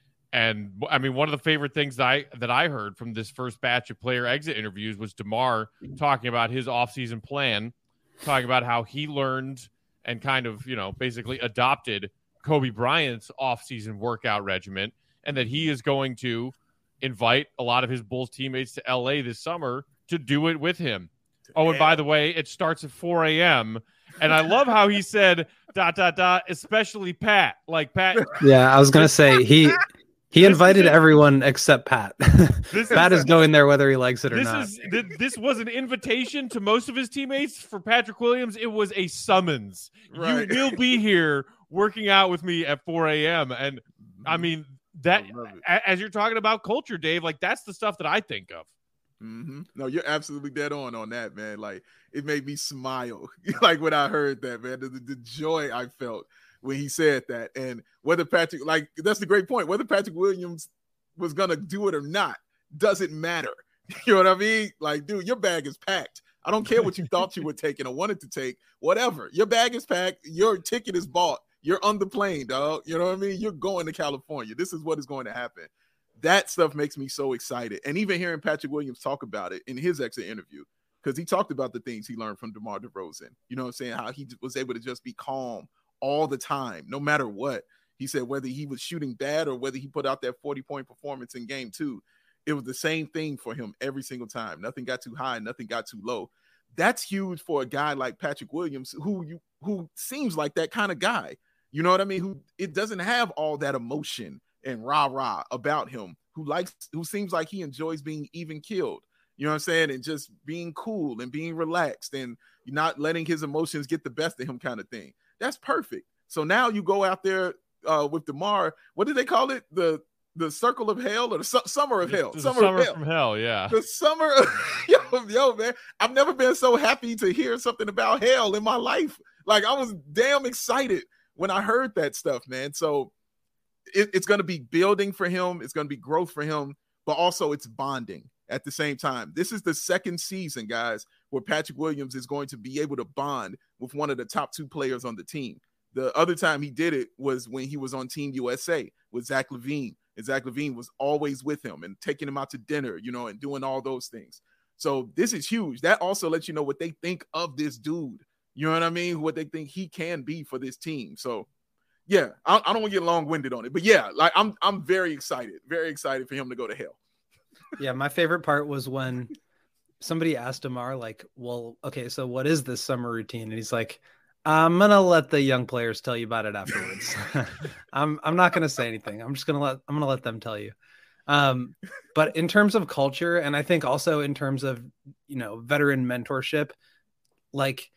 And I mean, one of the favorite things that I, that I heard from this first batch of player exit interviews was DeMar talking about his offseason plan, talking about how he learned and kind of, you know, basically adopted Kobe Bryant's offseason workout regimen, and that he is going to invite a lot of his Bulls teammates to L A this summer to do it with him. Oh, and by the way, it starts at four a.m. And I love how he said, dot, dot, dot, especially Pat. Like, Pat. Yeah, I was going to say, he he invited everyone except Pat. This Pat is, is going there whether he likes it or this not. Is, this was an invitation to most of his teammates. For Patrick Williams, it was a summons. Right. You will be here working out with me at four a.m. And I mean, that I as you're talking about culture, Dave, like that's the stuff that I think of. Mm-hmm. No, you're absolutely dead on on that, man. Like it made me smile, like when I heard that, man. The, the, the joy I felt when he said that, and whether Patrick, like that's the great point. Whether Patrick Williams was gonna do it or not doesn't matter. You know what I mean? Like, dude, your bag is packed. I don't care what you thought you were taking or wanted to take. Whatever, your bag is packed. Your ticket is bought. You're on the plane, dog. You know what I mean? You're going to California. This is what is going to happen. That stuff makes me so excited. And even hearing Patrick Williams talk about it in his exit interview, because he talked about the things he learned from DeMar DeRozan. You know what I'm saying? How he was able to just be calm all the time, no matter what. He said whether he was shooting bad or whether he put out that forty-point performance in game two, it was the same thing for him every single time. Nothing got too high, nothing got too low. That's huge for a guy like Patrick Williams, who you who seems like that kind of guy. You know what I mean? Who it doesn't have all that emotion and rah-rah about him, who likes, who seems like he enjoys being even killed. You know what I'm saying? And just being cool and being relaxed and not letting his emotions get the best of him kind of thing. That's perfect. So now you go out there uh, with DeMar. What do they call it? The the circle of hell or the su- summer of hell? The summer, summer of hell. from hell, yeah. The summer of yo, yo, man. I've never been so happy to hear something about hell in my life. Like I was damn excited when I heard that stuff, man. So it, it's going to be building for him. It's going to be growth for him, but also it's bonding at the same time. This is the second season, guys, where Patrick Williams is going to be able to bond with one of the top two players on the team. The other time he did it was when he was on Team U S A with Zach LaVine, and Zach LaVine was always with him and taking him out to dinner, you know, and doing all those things. So this is huge. That also lets you know what they think of this dude. You know what I mean? What they think he can be for this team. So, yeah, I, I don't want to get long-winded on it, but yeah, like I'm, I'm very excited, very excited for him to go to hell. Yeah, my favorite part was when somebody asked DeMar, like, "Well, okay, so what is this summer routine?" And he's like, "I'm gonna let the young players tell you about it afterwards. I'm, I'm not gonna say anything. I'm just gonna let, I'm gonna let them tell you." Um, but in terms of culture, and I think also in terms of, you know, veteran mentorship, like.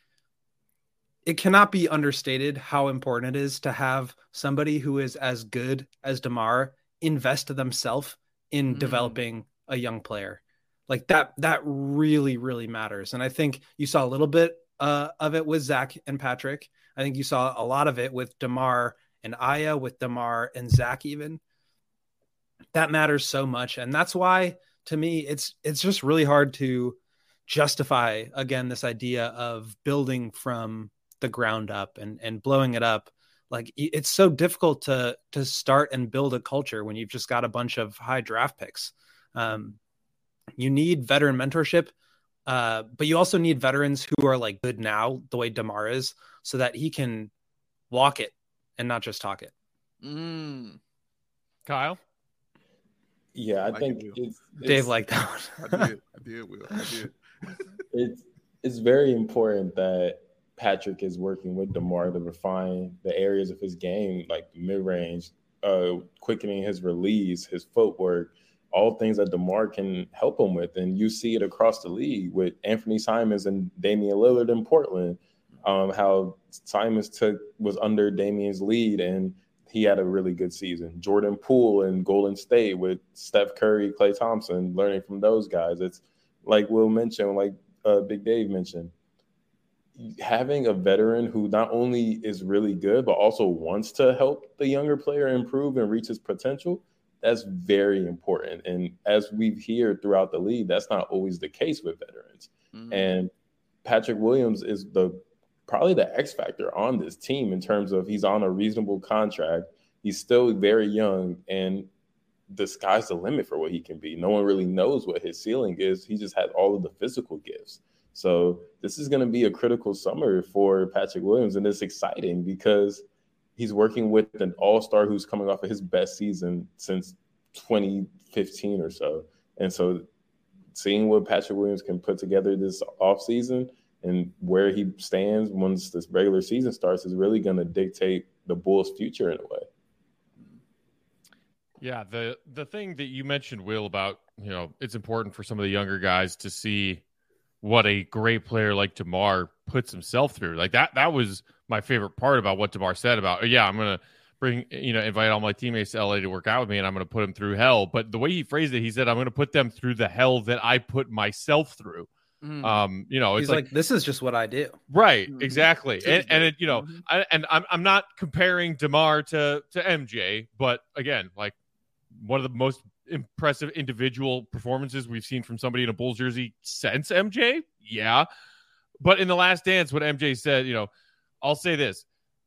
It cannot be understated how important it is to have somebody who is as good as DeMar invest themselves in mm. developing a young player. Like that, that really, really matters. And I think you saw a little bit uh, of it with Zach and Patrick. I think you saw a lot of it with DeMar and Aya, with DeMar and Zach even. that matters so much. And that's why, to me, it's it's just really hard to justify, again, this idea of building from the ground up and, and blowing it up. Like, it's so difficult to to start and build a culture when you've just got a bunch of high draft picks. Um, you need veteran mentorship, uh, but you also need veterans who are like good now, the way DeMar is, so that he can walk it and not just talk it. Mm. Kyle? Yeah, I, I like think it, it's, it's Dave liked that one. I did. I did, Will. I did. it's it's very important that Patrick is working with DeMar to refine the areas of his game, like mid-range, uh, quickening his release, his footwork, all things that DeMar can help him with. And you see it across the league with Anthony Simons and Damian Lillard in Portland, um, how Simons took was under Damian's lead and he had a really good season. Jordan Poole in Golden State with Steph Curry, Klay Thompson, learning from those guys. It's like Will mentioned, like uh, Big Dave mentioned, having a veteran who not only is really good, but also wants to help the younger player improve and reach his potential, that's very important. And as we've heard throughout the league, that's not always the case with veterans. Mm-hmm. And Patrick Williams is the probably the X factor on this team in terms of he's on a reasonable contract. He's still very young, and the sky's the limit for what he can be. No one really knows what his ceiling is. He just has all of the physical gifts. So this is going to be a critical summer for Patrick Williams, and it's exciting because he's working with an all-star who's coming off of his best season since twenty fifteen or so. And so seeing what Patrick Williams can put together this offseason and where he stands once this regular season starts is really going to dictate the Bulls' future in a way. Yeah, the the thing that you mentioned, Will, about, you know, it's important for some of the younger guys to see what a great player like DeMar puts himself through. Like that, that was my favorite part about what DeMar said about, oh, yeah, I'm going to bring, you know, invite all my teammates to L A to work out with me and I'm going to put them through hell. But the way he phrased it, he said, I'm going to put them through the hell that I put myself through. Mm. Um, you know, it's He's like, like, this is just what I do. Right. Mm-hmm. Exactly. And, and it, you know, mm-hmm. I, and I'm, I'm not comparing DeMar to, to M J, but again, like one of the most impressive individual performances we've seen from somebody in a Bulls jersey since M J. Yeah. But in The Last Dance, what M J said, you know, I'll say this.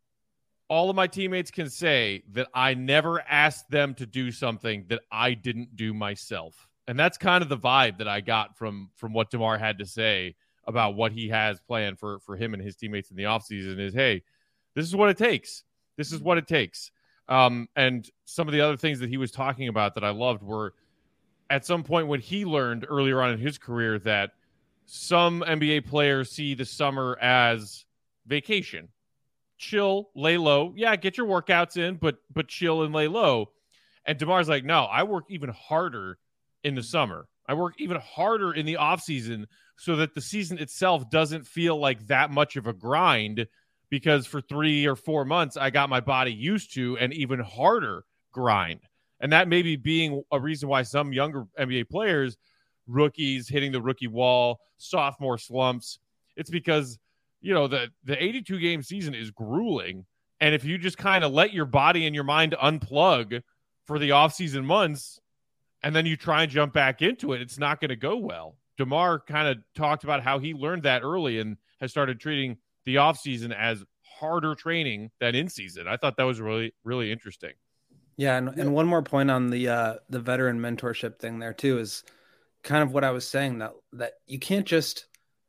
All of my teammates can say that I never asked them to do something that I didn't do myself. And that's kind of the vibe that I got from, from what DeMar had to say about what he has planned for, for him and his teammates in the offseason is, hey, this is what it takes. This is what it takes. Um, and some of the other things that he was talking about that I loved were at some point when he learned earlier on in his career that some N B A players see the summer as vacation. Chill, lay low. Yeah, get your workouts in, but but chill and lay low. And DeMar's like, no, I work even harder in the summer. I work even harder in the offseason so that the season itself doesn't feel like that much of a grind, because for three or four months, I got my body used to an even harder grind. And that may be being a reason why some younger N B A players, rookies hitting the rookie wall, sophomore slumps, it's because, you know, the, the eighty-two game season is grueling. And if you just kind of let your body and your mind unplug for the offseason months, and then you try and jump back into it, it's not going to go well. DeMar kind of talked about how he learned that early and has started treating the offseason as harder training than in season. I thought that was really, really interesting. Yeah. And, and one more point on the, uh, the veteran mentorship thing there too, is kind of what I was saying, that, that you can't just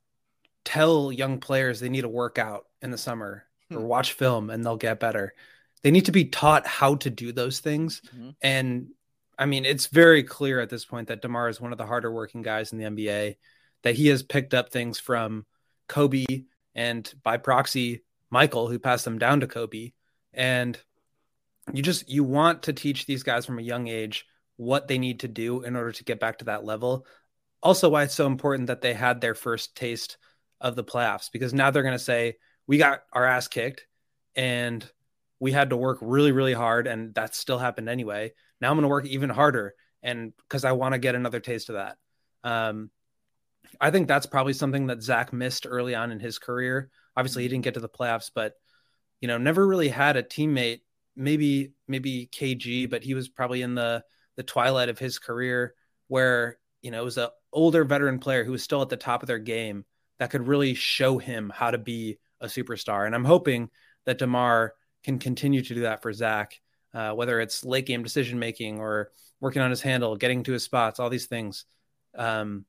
tell young players they need to work out in the summer hmm. or watch film and they'll get better. They need to be taught how to do those things. Mm-hmm. And I mean, it's very clear at this point that DeMar is one of the harder working guys in the N B A, that he has picked up things from Kobe and by proxy, Michael, who passed them down to Kobe. And you just, you want to teach these guys from a young age what they need to do in order to get back to that level. Also why it's so important that they had their first taste of the playoffs, because now they're going to say, we got our ass kicked and we had to work really, really hard. And that still happened anyway. Now I'm going to work even harder, and because I want to get another taste of that. Um, I think that's probably something that Zach missed early on in his career. Obviously, he didn't get to the playoffs, but you know, never really had a teammate. Maybe maybe K G, but he was probably in the the twilight of his career where, you know, it was an older veteran player who was still at the top of their game that could really show him how to be a superstar. And I'm hoping that DeMar can continue to do that for Zach, uh, whether it's late game decision-making or working on his handle, getting to his spots, all these things. Um,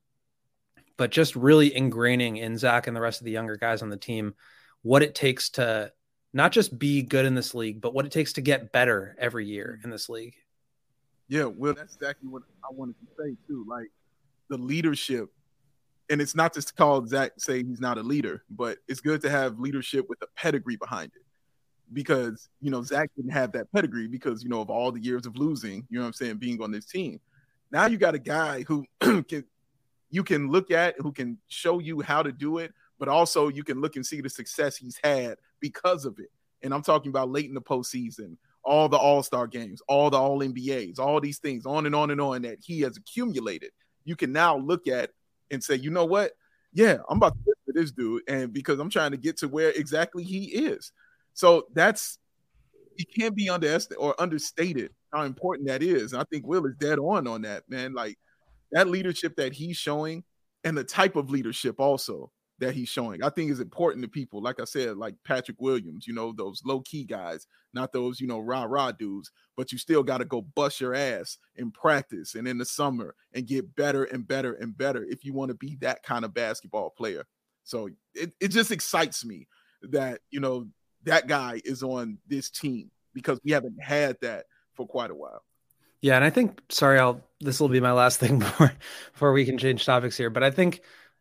but just really ingraining in Zach and the rest of the younger guys on the team what it takes to not just be good in this league, but what it takes to get better every year in this league. Yeah, well, that's exactly what I wanted to say too. Like the leadership, and it's not just to call Zach say he's not a leader, but it's good to have leadership with a pedigree behind it. Because, you know, Zach didn't have that pedigree because, you know, of all the years of losing, you know what I'm saying, being on this team. Now you got a guy who can you can look at, who can show you how to do it, but also you can look and see the success he's had because of it. And I'm talking about late in the postseason, all the all-star games, all the all N B As, all these things, on and on and on that he has accumulated. You can now look at and say, you know what? Yeah, I'm about to get to this dude, and because I'm trying to get to where exactly he is. So that's, it can't be underestimated or understated how important that is. And I think Will is dead on on that, man. Like that leadership that he's showing and the type of leadership also that he's showing, I think is important to people. Like I said, like Patrick Williams, you know, those low key guys, not those, you know, rah rah dudes, but you still got to go bust your ass in practice and in the summer and get better and better and better if you want to be that kind of basketball player. So it, it just excites me that, you know, that guy is on this team because we haven't had that for quite a while. Yeah. And I think, sorry, I'll, this will be my last thing before, before we can change topics here. But I think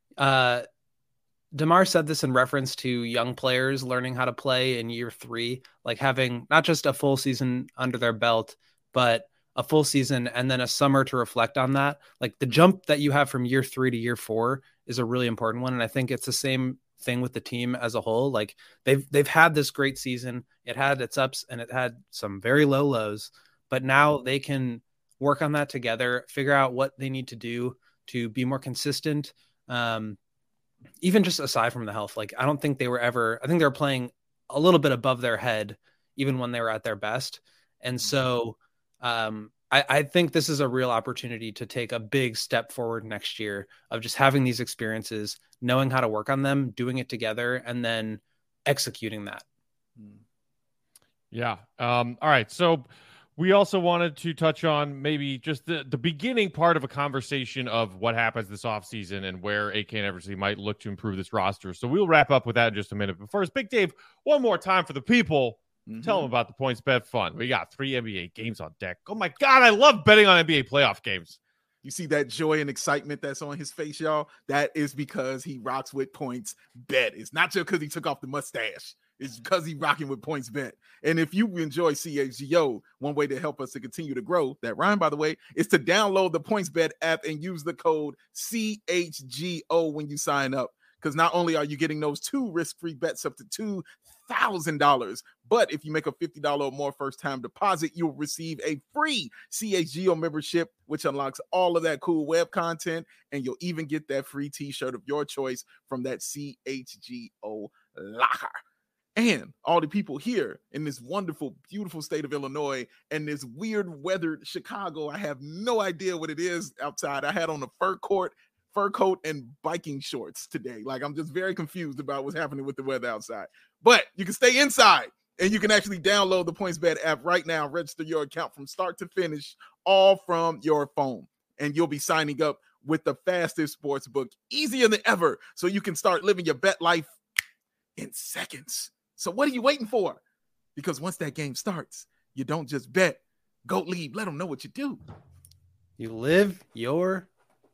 uh, DeMar said this in reference to young players learning how to play in year three, like having not just a full season under their belt, but a full season and then a summer to reflect on that. Like the jump that you have from year three to year four is a really important one. And I think it's the same thing with the team as a whole. Like they've they've had this great season. It had its ups and it had some very low lows, but now they can work on that together, figure out what they need to do to be more consistent. Um, even just aside from the health, like I don't think they were ever, I think they were playing a little bit above their head, even when they were at their best. And so um, I, I think this is a real opportunity to take a big step forward next year of just having these experiences, knowing how to work on them, doing it together, and then executing that. Yeah. Um, all right. So we also wanted to touch on maybe just the, the beginning part of a conversation of what happens this offseason and where A K and Eversley might look to improve this roster. So we'll wrap up with that in just a minute. But first, Big Dave, one more time for the people. Mm-hmm. Tell them about the PointsBet fun. We got three N B A games on deck. Oh, my God. I love betting on N B A playoff games. You see that joy and excitement that's on his face, y'all? That is because he rocks with PointsBet. It's not just because he took off the mustache. It's because he's rocking with PointsBet. And if you enjoy C H G O, one way to help us to continue to grow, that rhyme, by the way, is to download the PointsBet app and use the code C H G O when you sign up. Because not only are you getting those two risk-free bets up to two thousand dollars, but if you make a fifty dollars or more first-time deposit, you'll receive a free C H G O membership, which unlocks all of that cool web content, and you'll even get that free t-shirt of your choice from that C H G O locker. And all the people here in this wonderful, beautiful state of Illinois and this weird weathered Chicago, I have no idea what it is outside. I had on a fur coat, fur coat and biking shorts today. Like, I'm just very confused about what's happening with the weather outside. But you can stay inside and you can actually download the PointsBet app right now, register your account from start to finish, all from your phone. And you'll be signing up with the fastest sports book, easier than ever, so you can start living your bet life in seconds. So what are you waiting for? Because once that game starts, you don't just bet. Go leave. Let them know what you do. You live your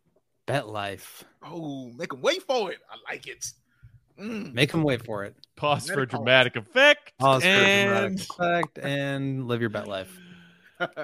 bet life. Oh, make them wait for it. I like it. Mm. Make them wait for it. Pause dramatic for dramatic effect. Pause and... for dramatic effect and live your bet life. All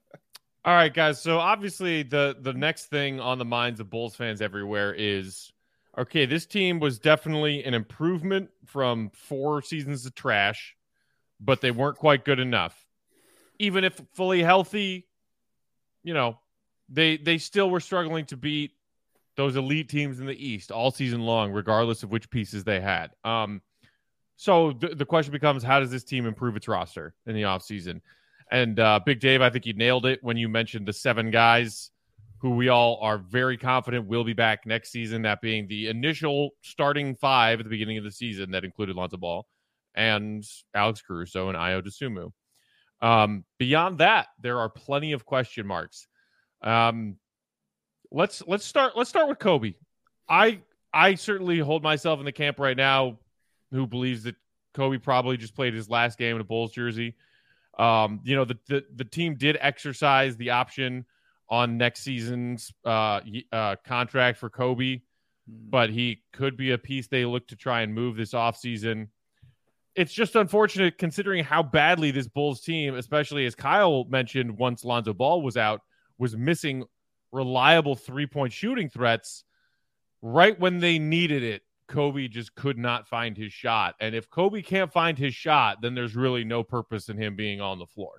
right, guys. So obviously the, the next thing on the minds of Bulls fans everywhere is, okay, this team was definitely an improvement from four seasons of trash, but they weren't quite good enough. Even if fully healthy, you know, they they still were struggling to beat those elite teams in the East all season long, regardless of which pieces they had. Um, so th- the question becomes, how does this team improve its roster in the offseason? And uh, Big Dave, I think you nailed it when you mentioned the seven guys who we all are very confident will be back next season, that being the initial starting five at the beginning of the season that included Lonzo Ball and Alex Caruso and Ayo Dosunmu. Um, beyond that, there are plenty of question marks. Um, let's let's start let's start with Kobe. I I certainly hold myself in the camp right now who believes that Kobe probably just played his last game in a Bulls jersey. Um, you know, the, the the team did exercise the option on next season's uh, uh, contract for Kobe, but he could be a piece they look to try and move this offseason. It's just unfortunate considering how badly this Bulls team, especially as Kyle mentioned once Lonzo Ball was out, was missing reliable three-point shooting threats. Right when they needed it, Kobe just could not find his shot. And if Kobe can't find his shot, then there's really no purpose in him being on the floor.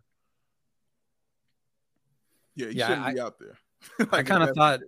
Yeah, he yeah, shouldn't I, be out there. like I kind of thought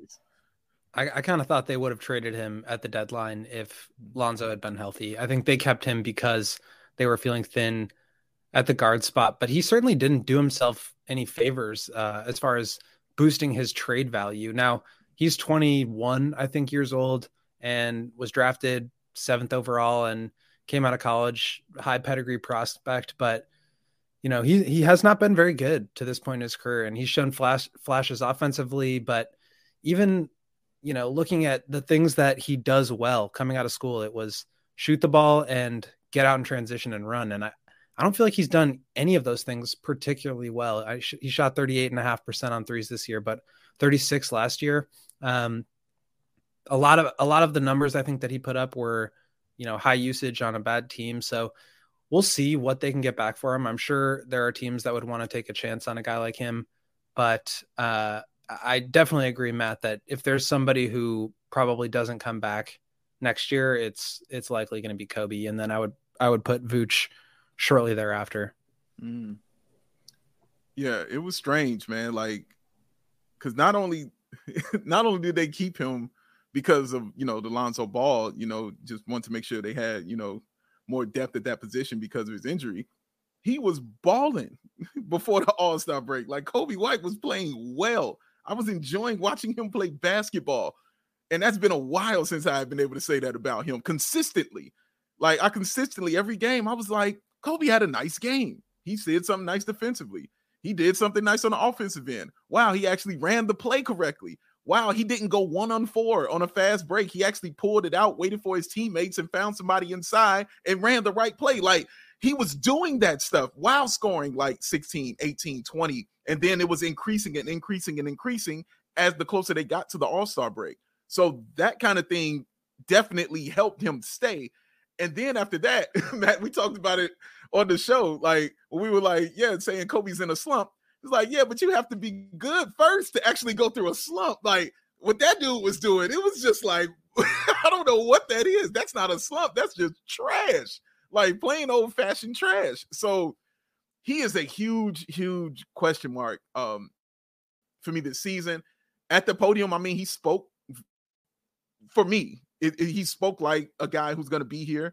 I, I kind of thought they would have traded him at the deadline if Lonzo had been healthy. I think they kept him because they were feeling thin at the guard spot, but he certainly didn't do himself any favors uh, as far as boosting his trade value. Now, he's twenty-one, I think, years old and was drafted seventh overall and came out of college, high pedigree prospect, but you know, he, he has not been very good to this point in his career, and he's shown flash flashes offensively, but even, you know, looking at the things that he does well coming out of school, it was shoot the ball and get out in transition and run. And I, I don't feel like he's done any of those things particularly well. I sh- he shot thirty-eight and a half percent on threes this year, but thirty-six last year. Um, a lot of, a lot of the numbers I think that he put up were, you know, high usage on a bad team. So we'll see what they can get back for him. I'm sure there are teams that would want to take a chance on a guy like him, but uh, I definitely agree, Matt, that if there's somebody who probably doesn't come back next year, it's it's likely going to be Kobe, and then I would I would put Vooch shortly thereafter. Mm. Yeah, it was strange, man. Like, because not only not only did they keep him because of, you know, the Lonzo Ball, you know, just want to make sure they had, you know, more depth at that position because of his injury. He was balling before the All-Star break. Like, Kobe White was playing well. I was enjoying watching him play basketball. And that's been a while since I've been able to say that about him consistently. Like, I consistently, every game, I was like, Kobe had a nice game. He did something nice defensively. He did something nice on the offensive end. Wow, he actually ran the play correctly. Wow, he didn't go one on four on a fast break. He actually pulled it out, waited for his teammates, and found somebody inside and ran the right play. Like, he was doing that stuff while scoring like sixteen, eighteen, twenty. And then it was increasing and increasing and increasing as the closer they got to the All-Star break. So that kind of thing definitely helped him stay. And then after that, Matt, we talked about it on the show. Like, when we were like, yeah, saying Kobe's in a slump. It's like, yeah, but you have to be good first to actually go through a slump. Like, what that dude was doing, it was just like, I don't know what that is. That's not a slump. That's just trash. Like, plain old-fashioned trash. So he is a huge, huge question mark um, for me this season. At the podium, I mean, he spoke, for me, it, it, he spoke like a guy who's going to be here.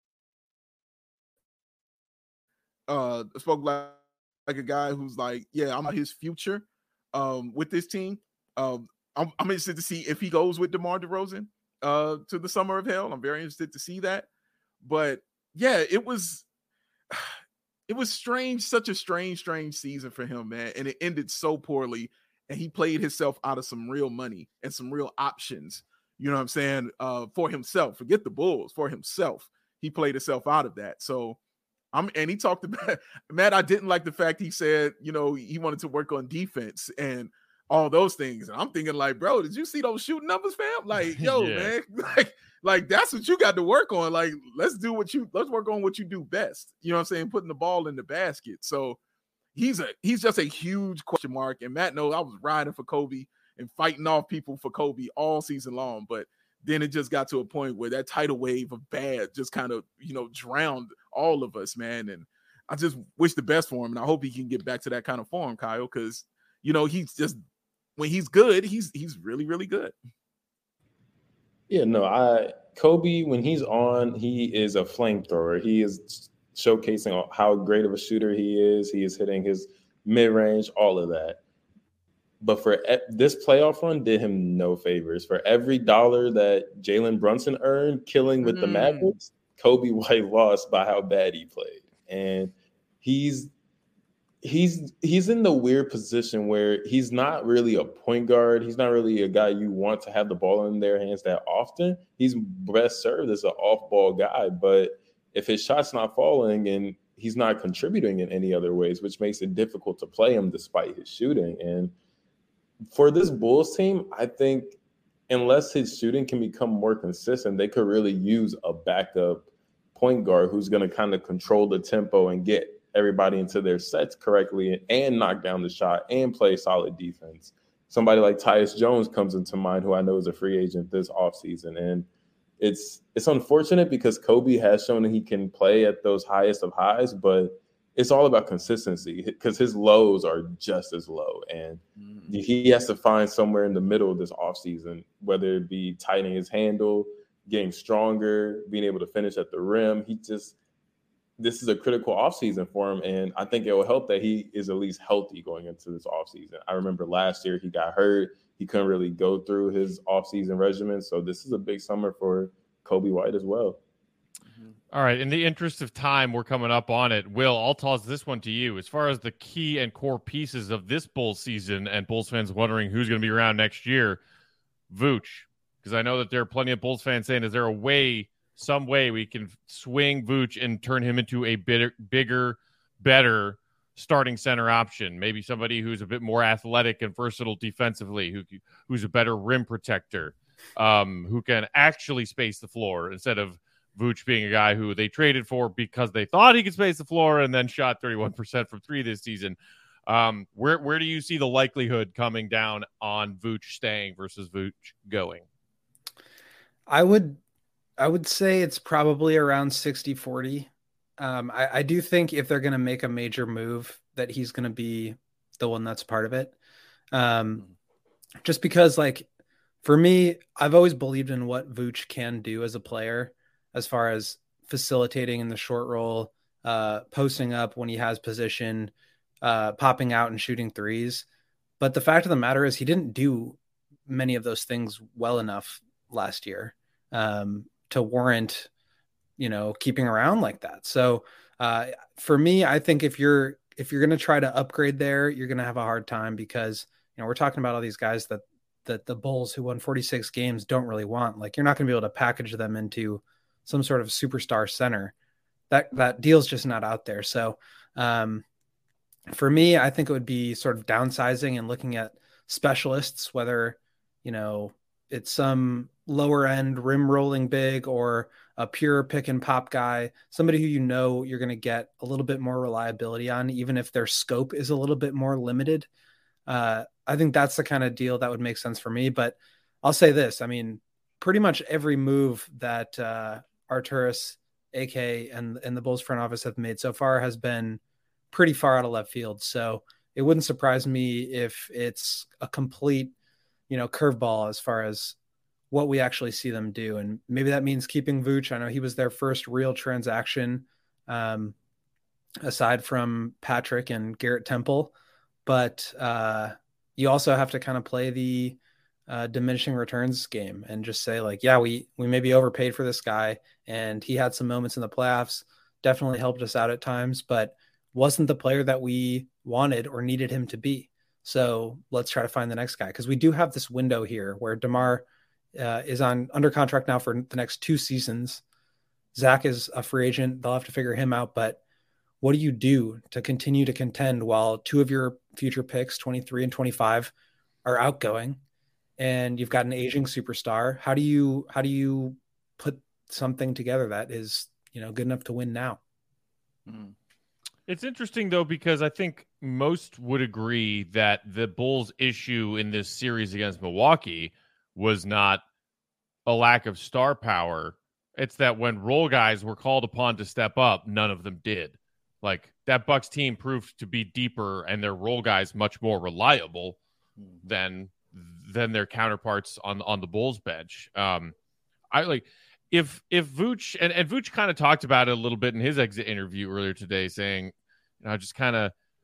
Uh, spoke like, like a guy who's like, yeah, I'm his future um, with this team. Um, I'm, I'm interested to see if he goes with DeMar DeRozan uh, to the Summer of Hell. I'm very interested to see that. But yeah, it was, it was strange, such a strange, strange season for him, man. And it ended so poorly. And he played himself out of some real money and some real options. You know what I'm saying? Uh, for himself, forget the Bulls, for himself. He played himself out of that. So I'm, and he talked about, Matt, I didn't like the fact he said, you know, he wanted to work on defense and all those things. And I'm thinking like, bro, did you see those shooting numbers, fam? Like, yo, yeah. man, like, like that's what you got to work on. Like, let's do what you, let's work on what you do best. You know what I'm saying? Putting the ball in the basket. So he's a, he's just a huge question mark. And Matt knows I was riding for Kobe and fighting off people for Kobe all season long. But then it just got to a point where that tidal wave of bad just kind of, you know, drowned all of us, man. And I just wish the best for him. And I hope he can get back to that kind of form, Kyle, because, you know, he's just, when he's good, he's he's really, really good. Yeah, no, I Kobe, when he's on, he is a flamethrower. He is showcasing how great of a shooter he is. He is hitting his mid-range, all of that. But for e- this playoff run did him no favors. For every dollar that Jalen Brunson earned killing with mm. the Mavericks, Coby White lost by how bad he played. And he's he's he's in the weird position where he's not really a point guard. He's not really a guy you want to have the ball in their hands that often. He's best served as an off-ball guy. But if his shot's not falling and he's not contributing in any other ways, which makes it difficult to play him despite his shooting. And for this Bulls team, I think unless his shooting can become more consistent, they could really use a backup point guard who's going to kind of control the tempo and get everybody into their sets correctly and knock down the shot and play solid defense. Somebody like Tyus Jones comes into mind, who I know is a free agent this offseason. And it's it's unfortunate because Coby has shown that he can play at those highest of highs, but it's all about consistency because his lows are just as low. And mm-hmm. he has to find somewhere in the middle of this offseason, whether it be tightening his handle, getting stronger, being able to finish at the rim. He just – this is a critical offseason for him, and I think it will help that he is at least healthy going into this offseason. I remember last year he got hurt. He couldn't really go through his offseason regimen, so this is a big summer for Coby White as well. All right. In the interest of time, we're coming up on it. Will, I'll toss this one to you. As far as the key and core pieces of this Bulls season and Bulls fans wondering who's going to be around next year, Vooch, because I know that there are plenty of Bulls fans saying, is there a way, some way we can swing Vooch and turn him into a bit, bigger, better starting center option? Maybe somebody who's a bit more athletic and versatile defensively, who who's a better rim protector, um, who can actually space the floor instead of Vooch being a guy who they traded for because they thought he could space the floor and then shot thirty-one percent from three this season. Um, where where do you see the likelihood coming down on Vooch staying versus Vooch going? I would I would say it's probably around sixty forty. Um, I, I do think if they're going to make a major move that he's going to be the one that's part of it. Um, just because, like, for me, I've always believed in what Vooch can do as a player, as far as facilitating in the short roll, uh, posting up when he has position, uh, popping out and shooting threes. But the fact of the matter is he didn't do many of those things well enough last year um, to warrant, you know, keeping around like that. So uh, for me, I think if you're, if you're going to try to upgrade there, you're going to have a hard time because, you know, we're talking about all these guys that, that the Bulls who won forty-six games don't really want. Like, you're not going to be able to package them into some sort of superstar center. That that deal's just not out there. So um, for me, I think it would be sort of downsizing and looking at specialists, whether, you know, it's some lower end rim rolling big or a pure pick and pop guy, somebody who you know you're going to get a little bit more reliability on, even if their scope is a little bit more limited. Uh, I think that's the kind of deal that would make sense for me. But I'll say this, I mean, pretty much every move that uh, Arturas, A K, and, and the Bulls front office have made so far has been pretty far out of left field. So it wouldn't surprise me if it's a complete, you know, curveball as far as what we actually see them do. And maybe that means keeping Vooch. I know he was their first real transaction, um, aside from Patrick and Garrett Temple. But uh, you also have to kind of play the uh, diminishing returns game and just say, like, yeah, we we maybe overpaid for this guy, and he had some moments in the playoffs, definitely helped us out at times, but wasn't the player that we wanted or needed him to be. So let's try to find the next guy, because we do have this window here where DeMar uh, is on under contract now for the next two seasons. Zach is a free agent. They'll have to figure him out, but what do you do to continue to contend while two of your future picks, twenty-three and twenty-five, are outgoing, and you've got an aging superstar? How do you how do you put something together that is, you know, good enough to win now? Mm. It's interesting, though, because I think most would agree that the Bulls' issue in this series against Milwaukee was not a lack of star power. It's that when role guys were called upon to step up, none of them did. Like, that Bucks team proved to be deeper and their role guys much more reliable than than their counterparts on on the Bulls bench. Um, I like if if Vooch and, and Vooch kind of talked about it a little bit in his exit interview earlier today, saying, you know, just kind of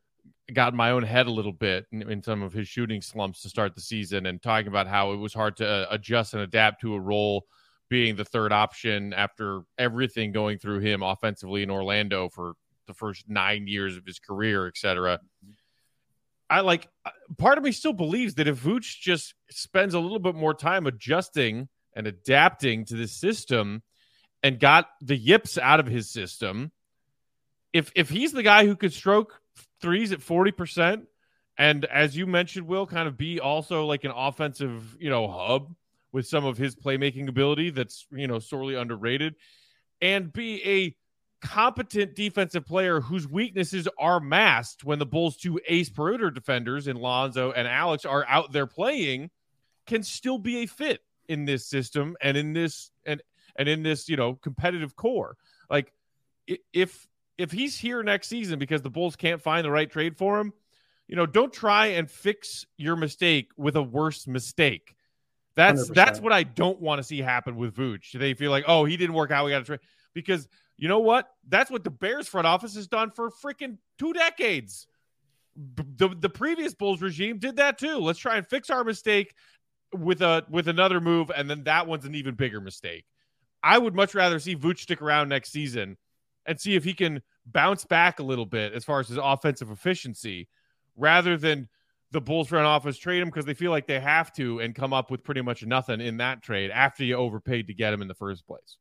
got in my own head a little bit in, in some of his shooting slumps to start the season, and talking about how it was hard to uh, adjust and adapt to a role being the third option after everything going through him offensively in Orlando for the first nine years of his career, et cetera. I like, part of me still believes that if Vooch just spends a little bit more time adjusting and adapting to this system and got the yips out of his system, if if he's the guy who could stroke threes at forty percent, and as you mentioned, Will, kind of be also like an offensive, you know, hub with some of his playmaking ability that's, you know, sorely underrated, and be a competent defensive player whose weaknesses are masked when the Bulls' two ace perimeter defenders in Lonzo and Alex are out there playing, can still be a fit in this system and in this and and in this, you know, competitive core. Like if if he's here next season because the Bulls can't find the right trade for him, you know, don't try and fix your mistake with a worse mistake. That's one hundred percent. That's what I don't want to see happen with Vooch. They feel like, oh, he didn't work out, we got to trade. Because you know what? That's what the Bears front office has done for freaking two decades. The, the previous Bulls regime did that too. Let's try and fix our mistake with a with another move, and then that one's an even bigger mistake. I would much rather see Vooch stick around next season and see if he can bounce back a little bit as far as his offensive efficiency, rather than the Bulls front office trade him because they feel like they have to and come up with pretty much nothing in that trade after you overpaid to get him in the first place.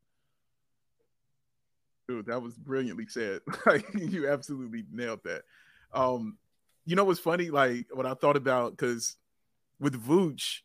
Dude, that was brilliantly said. Like, you absolutely nailed that. Um, you know what's funny? Like, what I thought about, because with Vooch,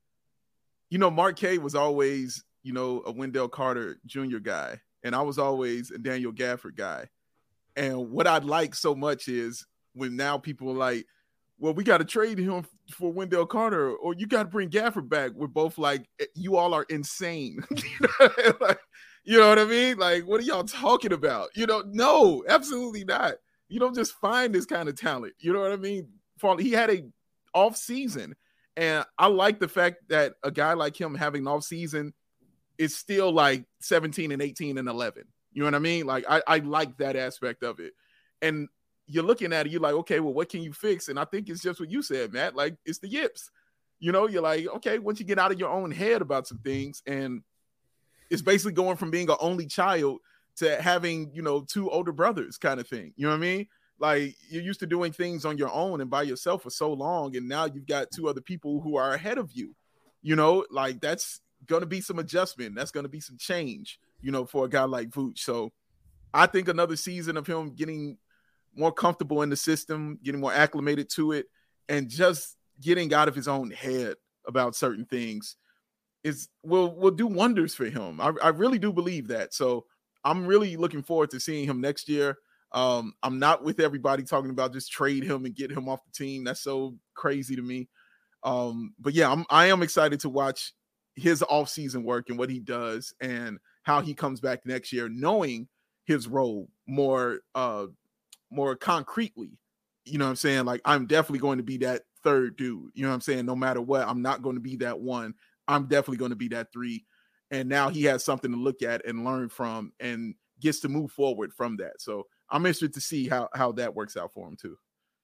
you know, Mark K was always, you know, a Wendell Carter Junior guy, and I was always a Daniel Gafford guy. And what I'd like so much is when now people are like, well, we got to trade him for Wendell Carter, or you got to bring Gafford back. We're both like, you all are insane. Like, you know what I mean? Like, what are y'all talking about? You know, no, absolutely not. You don't just find this kind of talent. You know what I mean? For, he had a off season, and I like the fact that a guy like him having an off season is still like seventeen and eighteen and eleven. You know what I mean? Like, I, I like that aspect of it. And you're looking at it, you're like, okay, well, what can you fix? And I think it's just what you said, Matt. Like, it's the yips. You know, you're like, okay, once you get out of your own head about some things, and it's basically going from being an only child to having, you know, two older brothers kind of thing. You know what I mean? Like, you're used to doing things on your own and by yourself for so long, and now you've got two other people who are ahead of you. You know, like, that's going to be some adjustment. That's going to be some change, you know, for a guy like Vooch. So I think another season of him getting more comfortable in the system, getting more acclimated to it, and just getting out of his own head about certain things is will will do wonders for him. I, I really do believe that. So I'm really looking forward to seeing him next year. Um, I'm not with everybody talking about just trade him and get him off the team. That's so crazy to me. Um, but yeah, I'm I am excited to watch his offseason work and what he does and how he comes back next year, knowing his role more uh more concretely. You know what I'm saying? Like, I'm definitely going to be that third dude. You know what I'm saying? No matter what, I'm not going to be that one. I'm definitely going to be that three. And now he has something to look at and learn from and gets to move forward from that. So I'm interested to see how, how that works out for him too.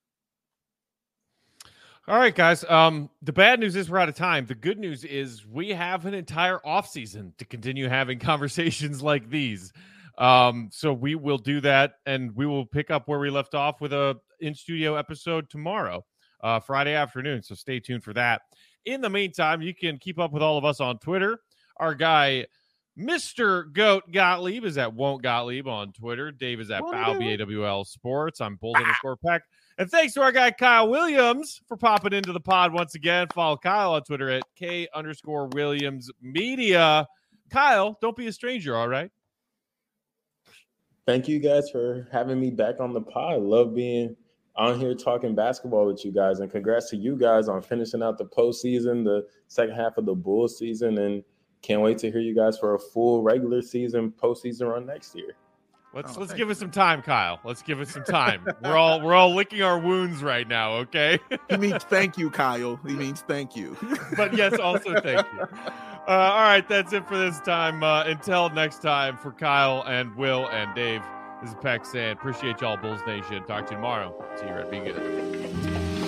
All right, guys. Um, the bad news is we're out of time. The good news is we have an entire offseason to continue having conversations like these. Um, so we will do that, and we will pick up where we left off with a in-studio episode tomorrow, uh, Friday afternoon. So stay tuned for that. In the meantime, you can keep up with all of us on Twitter. Our guy, Mister Goat Gottlieb, is at Won't Gottlieb on Twitter. Dave is at Bow, B A W L Sports. I'm Bulls underscore Peck. And thanks to our guy, Kyle Williams, for popping into the pod once again. Follow Kyle on Twitter at K underscore Williams Media. Kyle, don't be a stranger, all right? Thank you guys for having me back on the pod. Love being on here talking basketball with you guys, and congrats to you guys on finishing out the postseason, the second half of the Bulls season, and can't wait to hear you guys for a full regular season postseason run next year. Let's oh, let's give it some time, Kyle. Let's give it some time. we're all we're all licking our wounds right now, okay? He means thank you, Kyle. He means thank you. But yes, also thank you. Uh, all right, that's it for this time. Uh, until next time, for Kyle and Will and Dave, This is Peck saying, appreciate y'all, Bulls Nation. Talk to you tomorrow. See you, Red. Be good.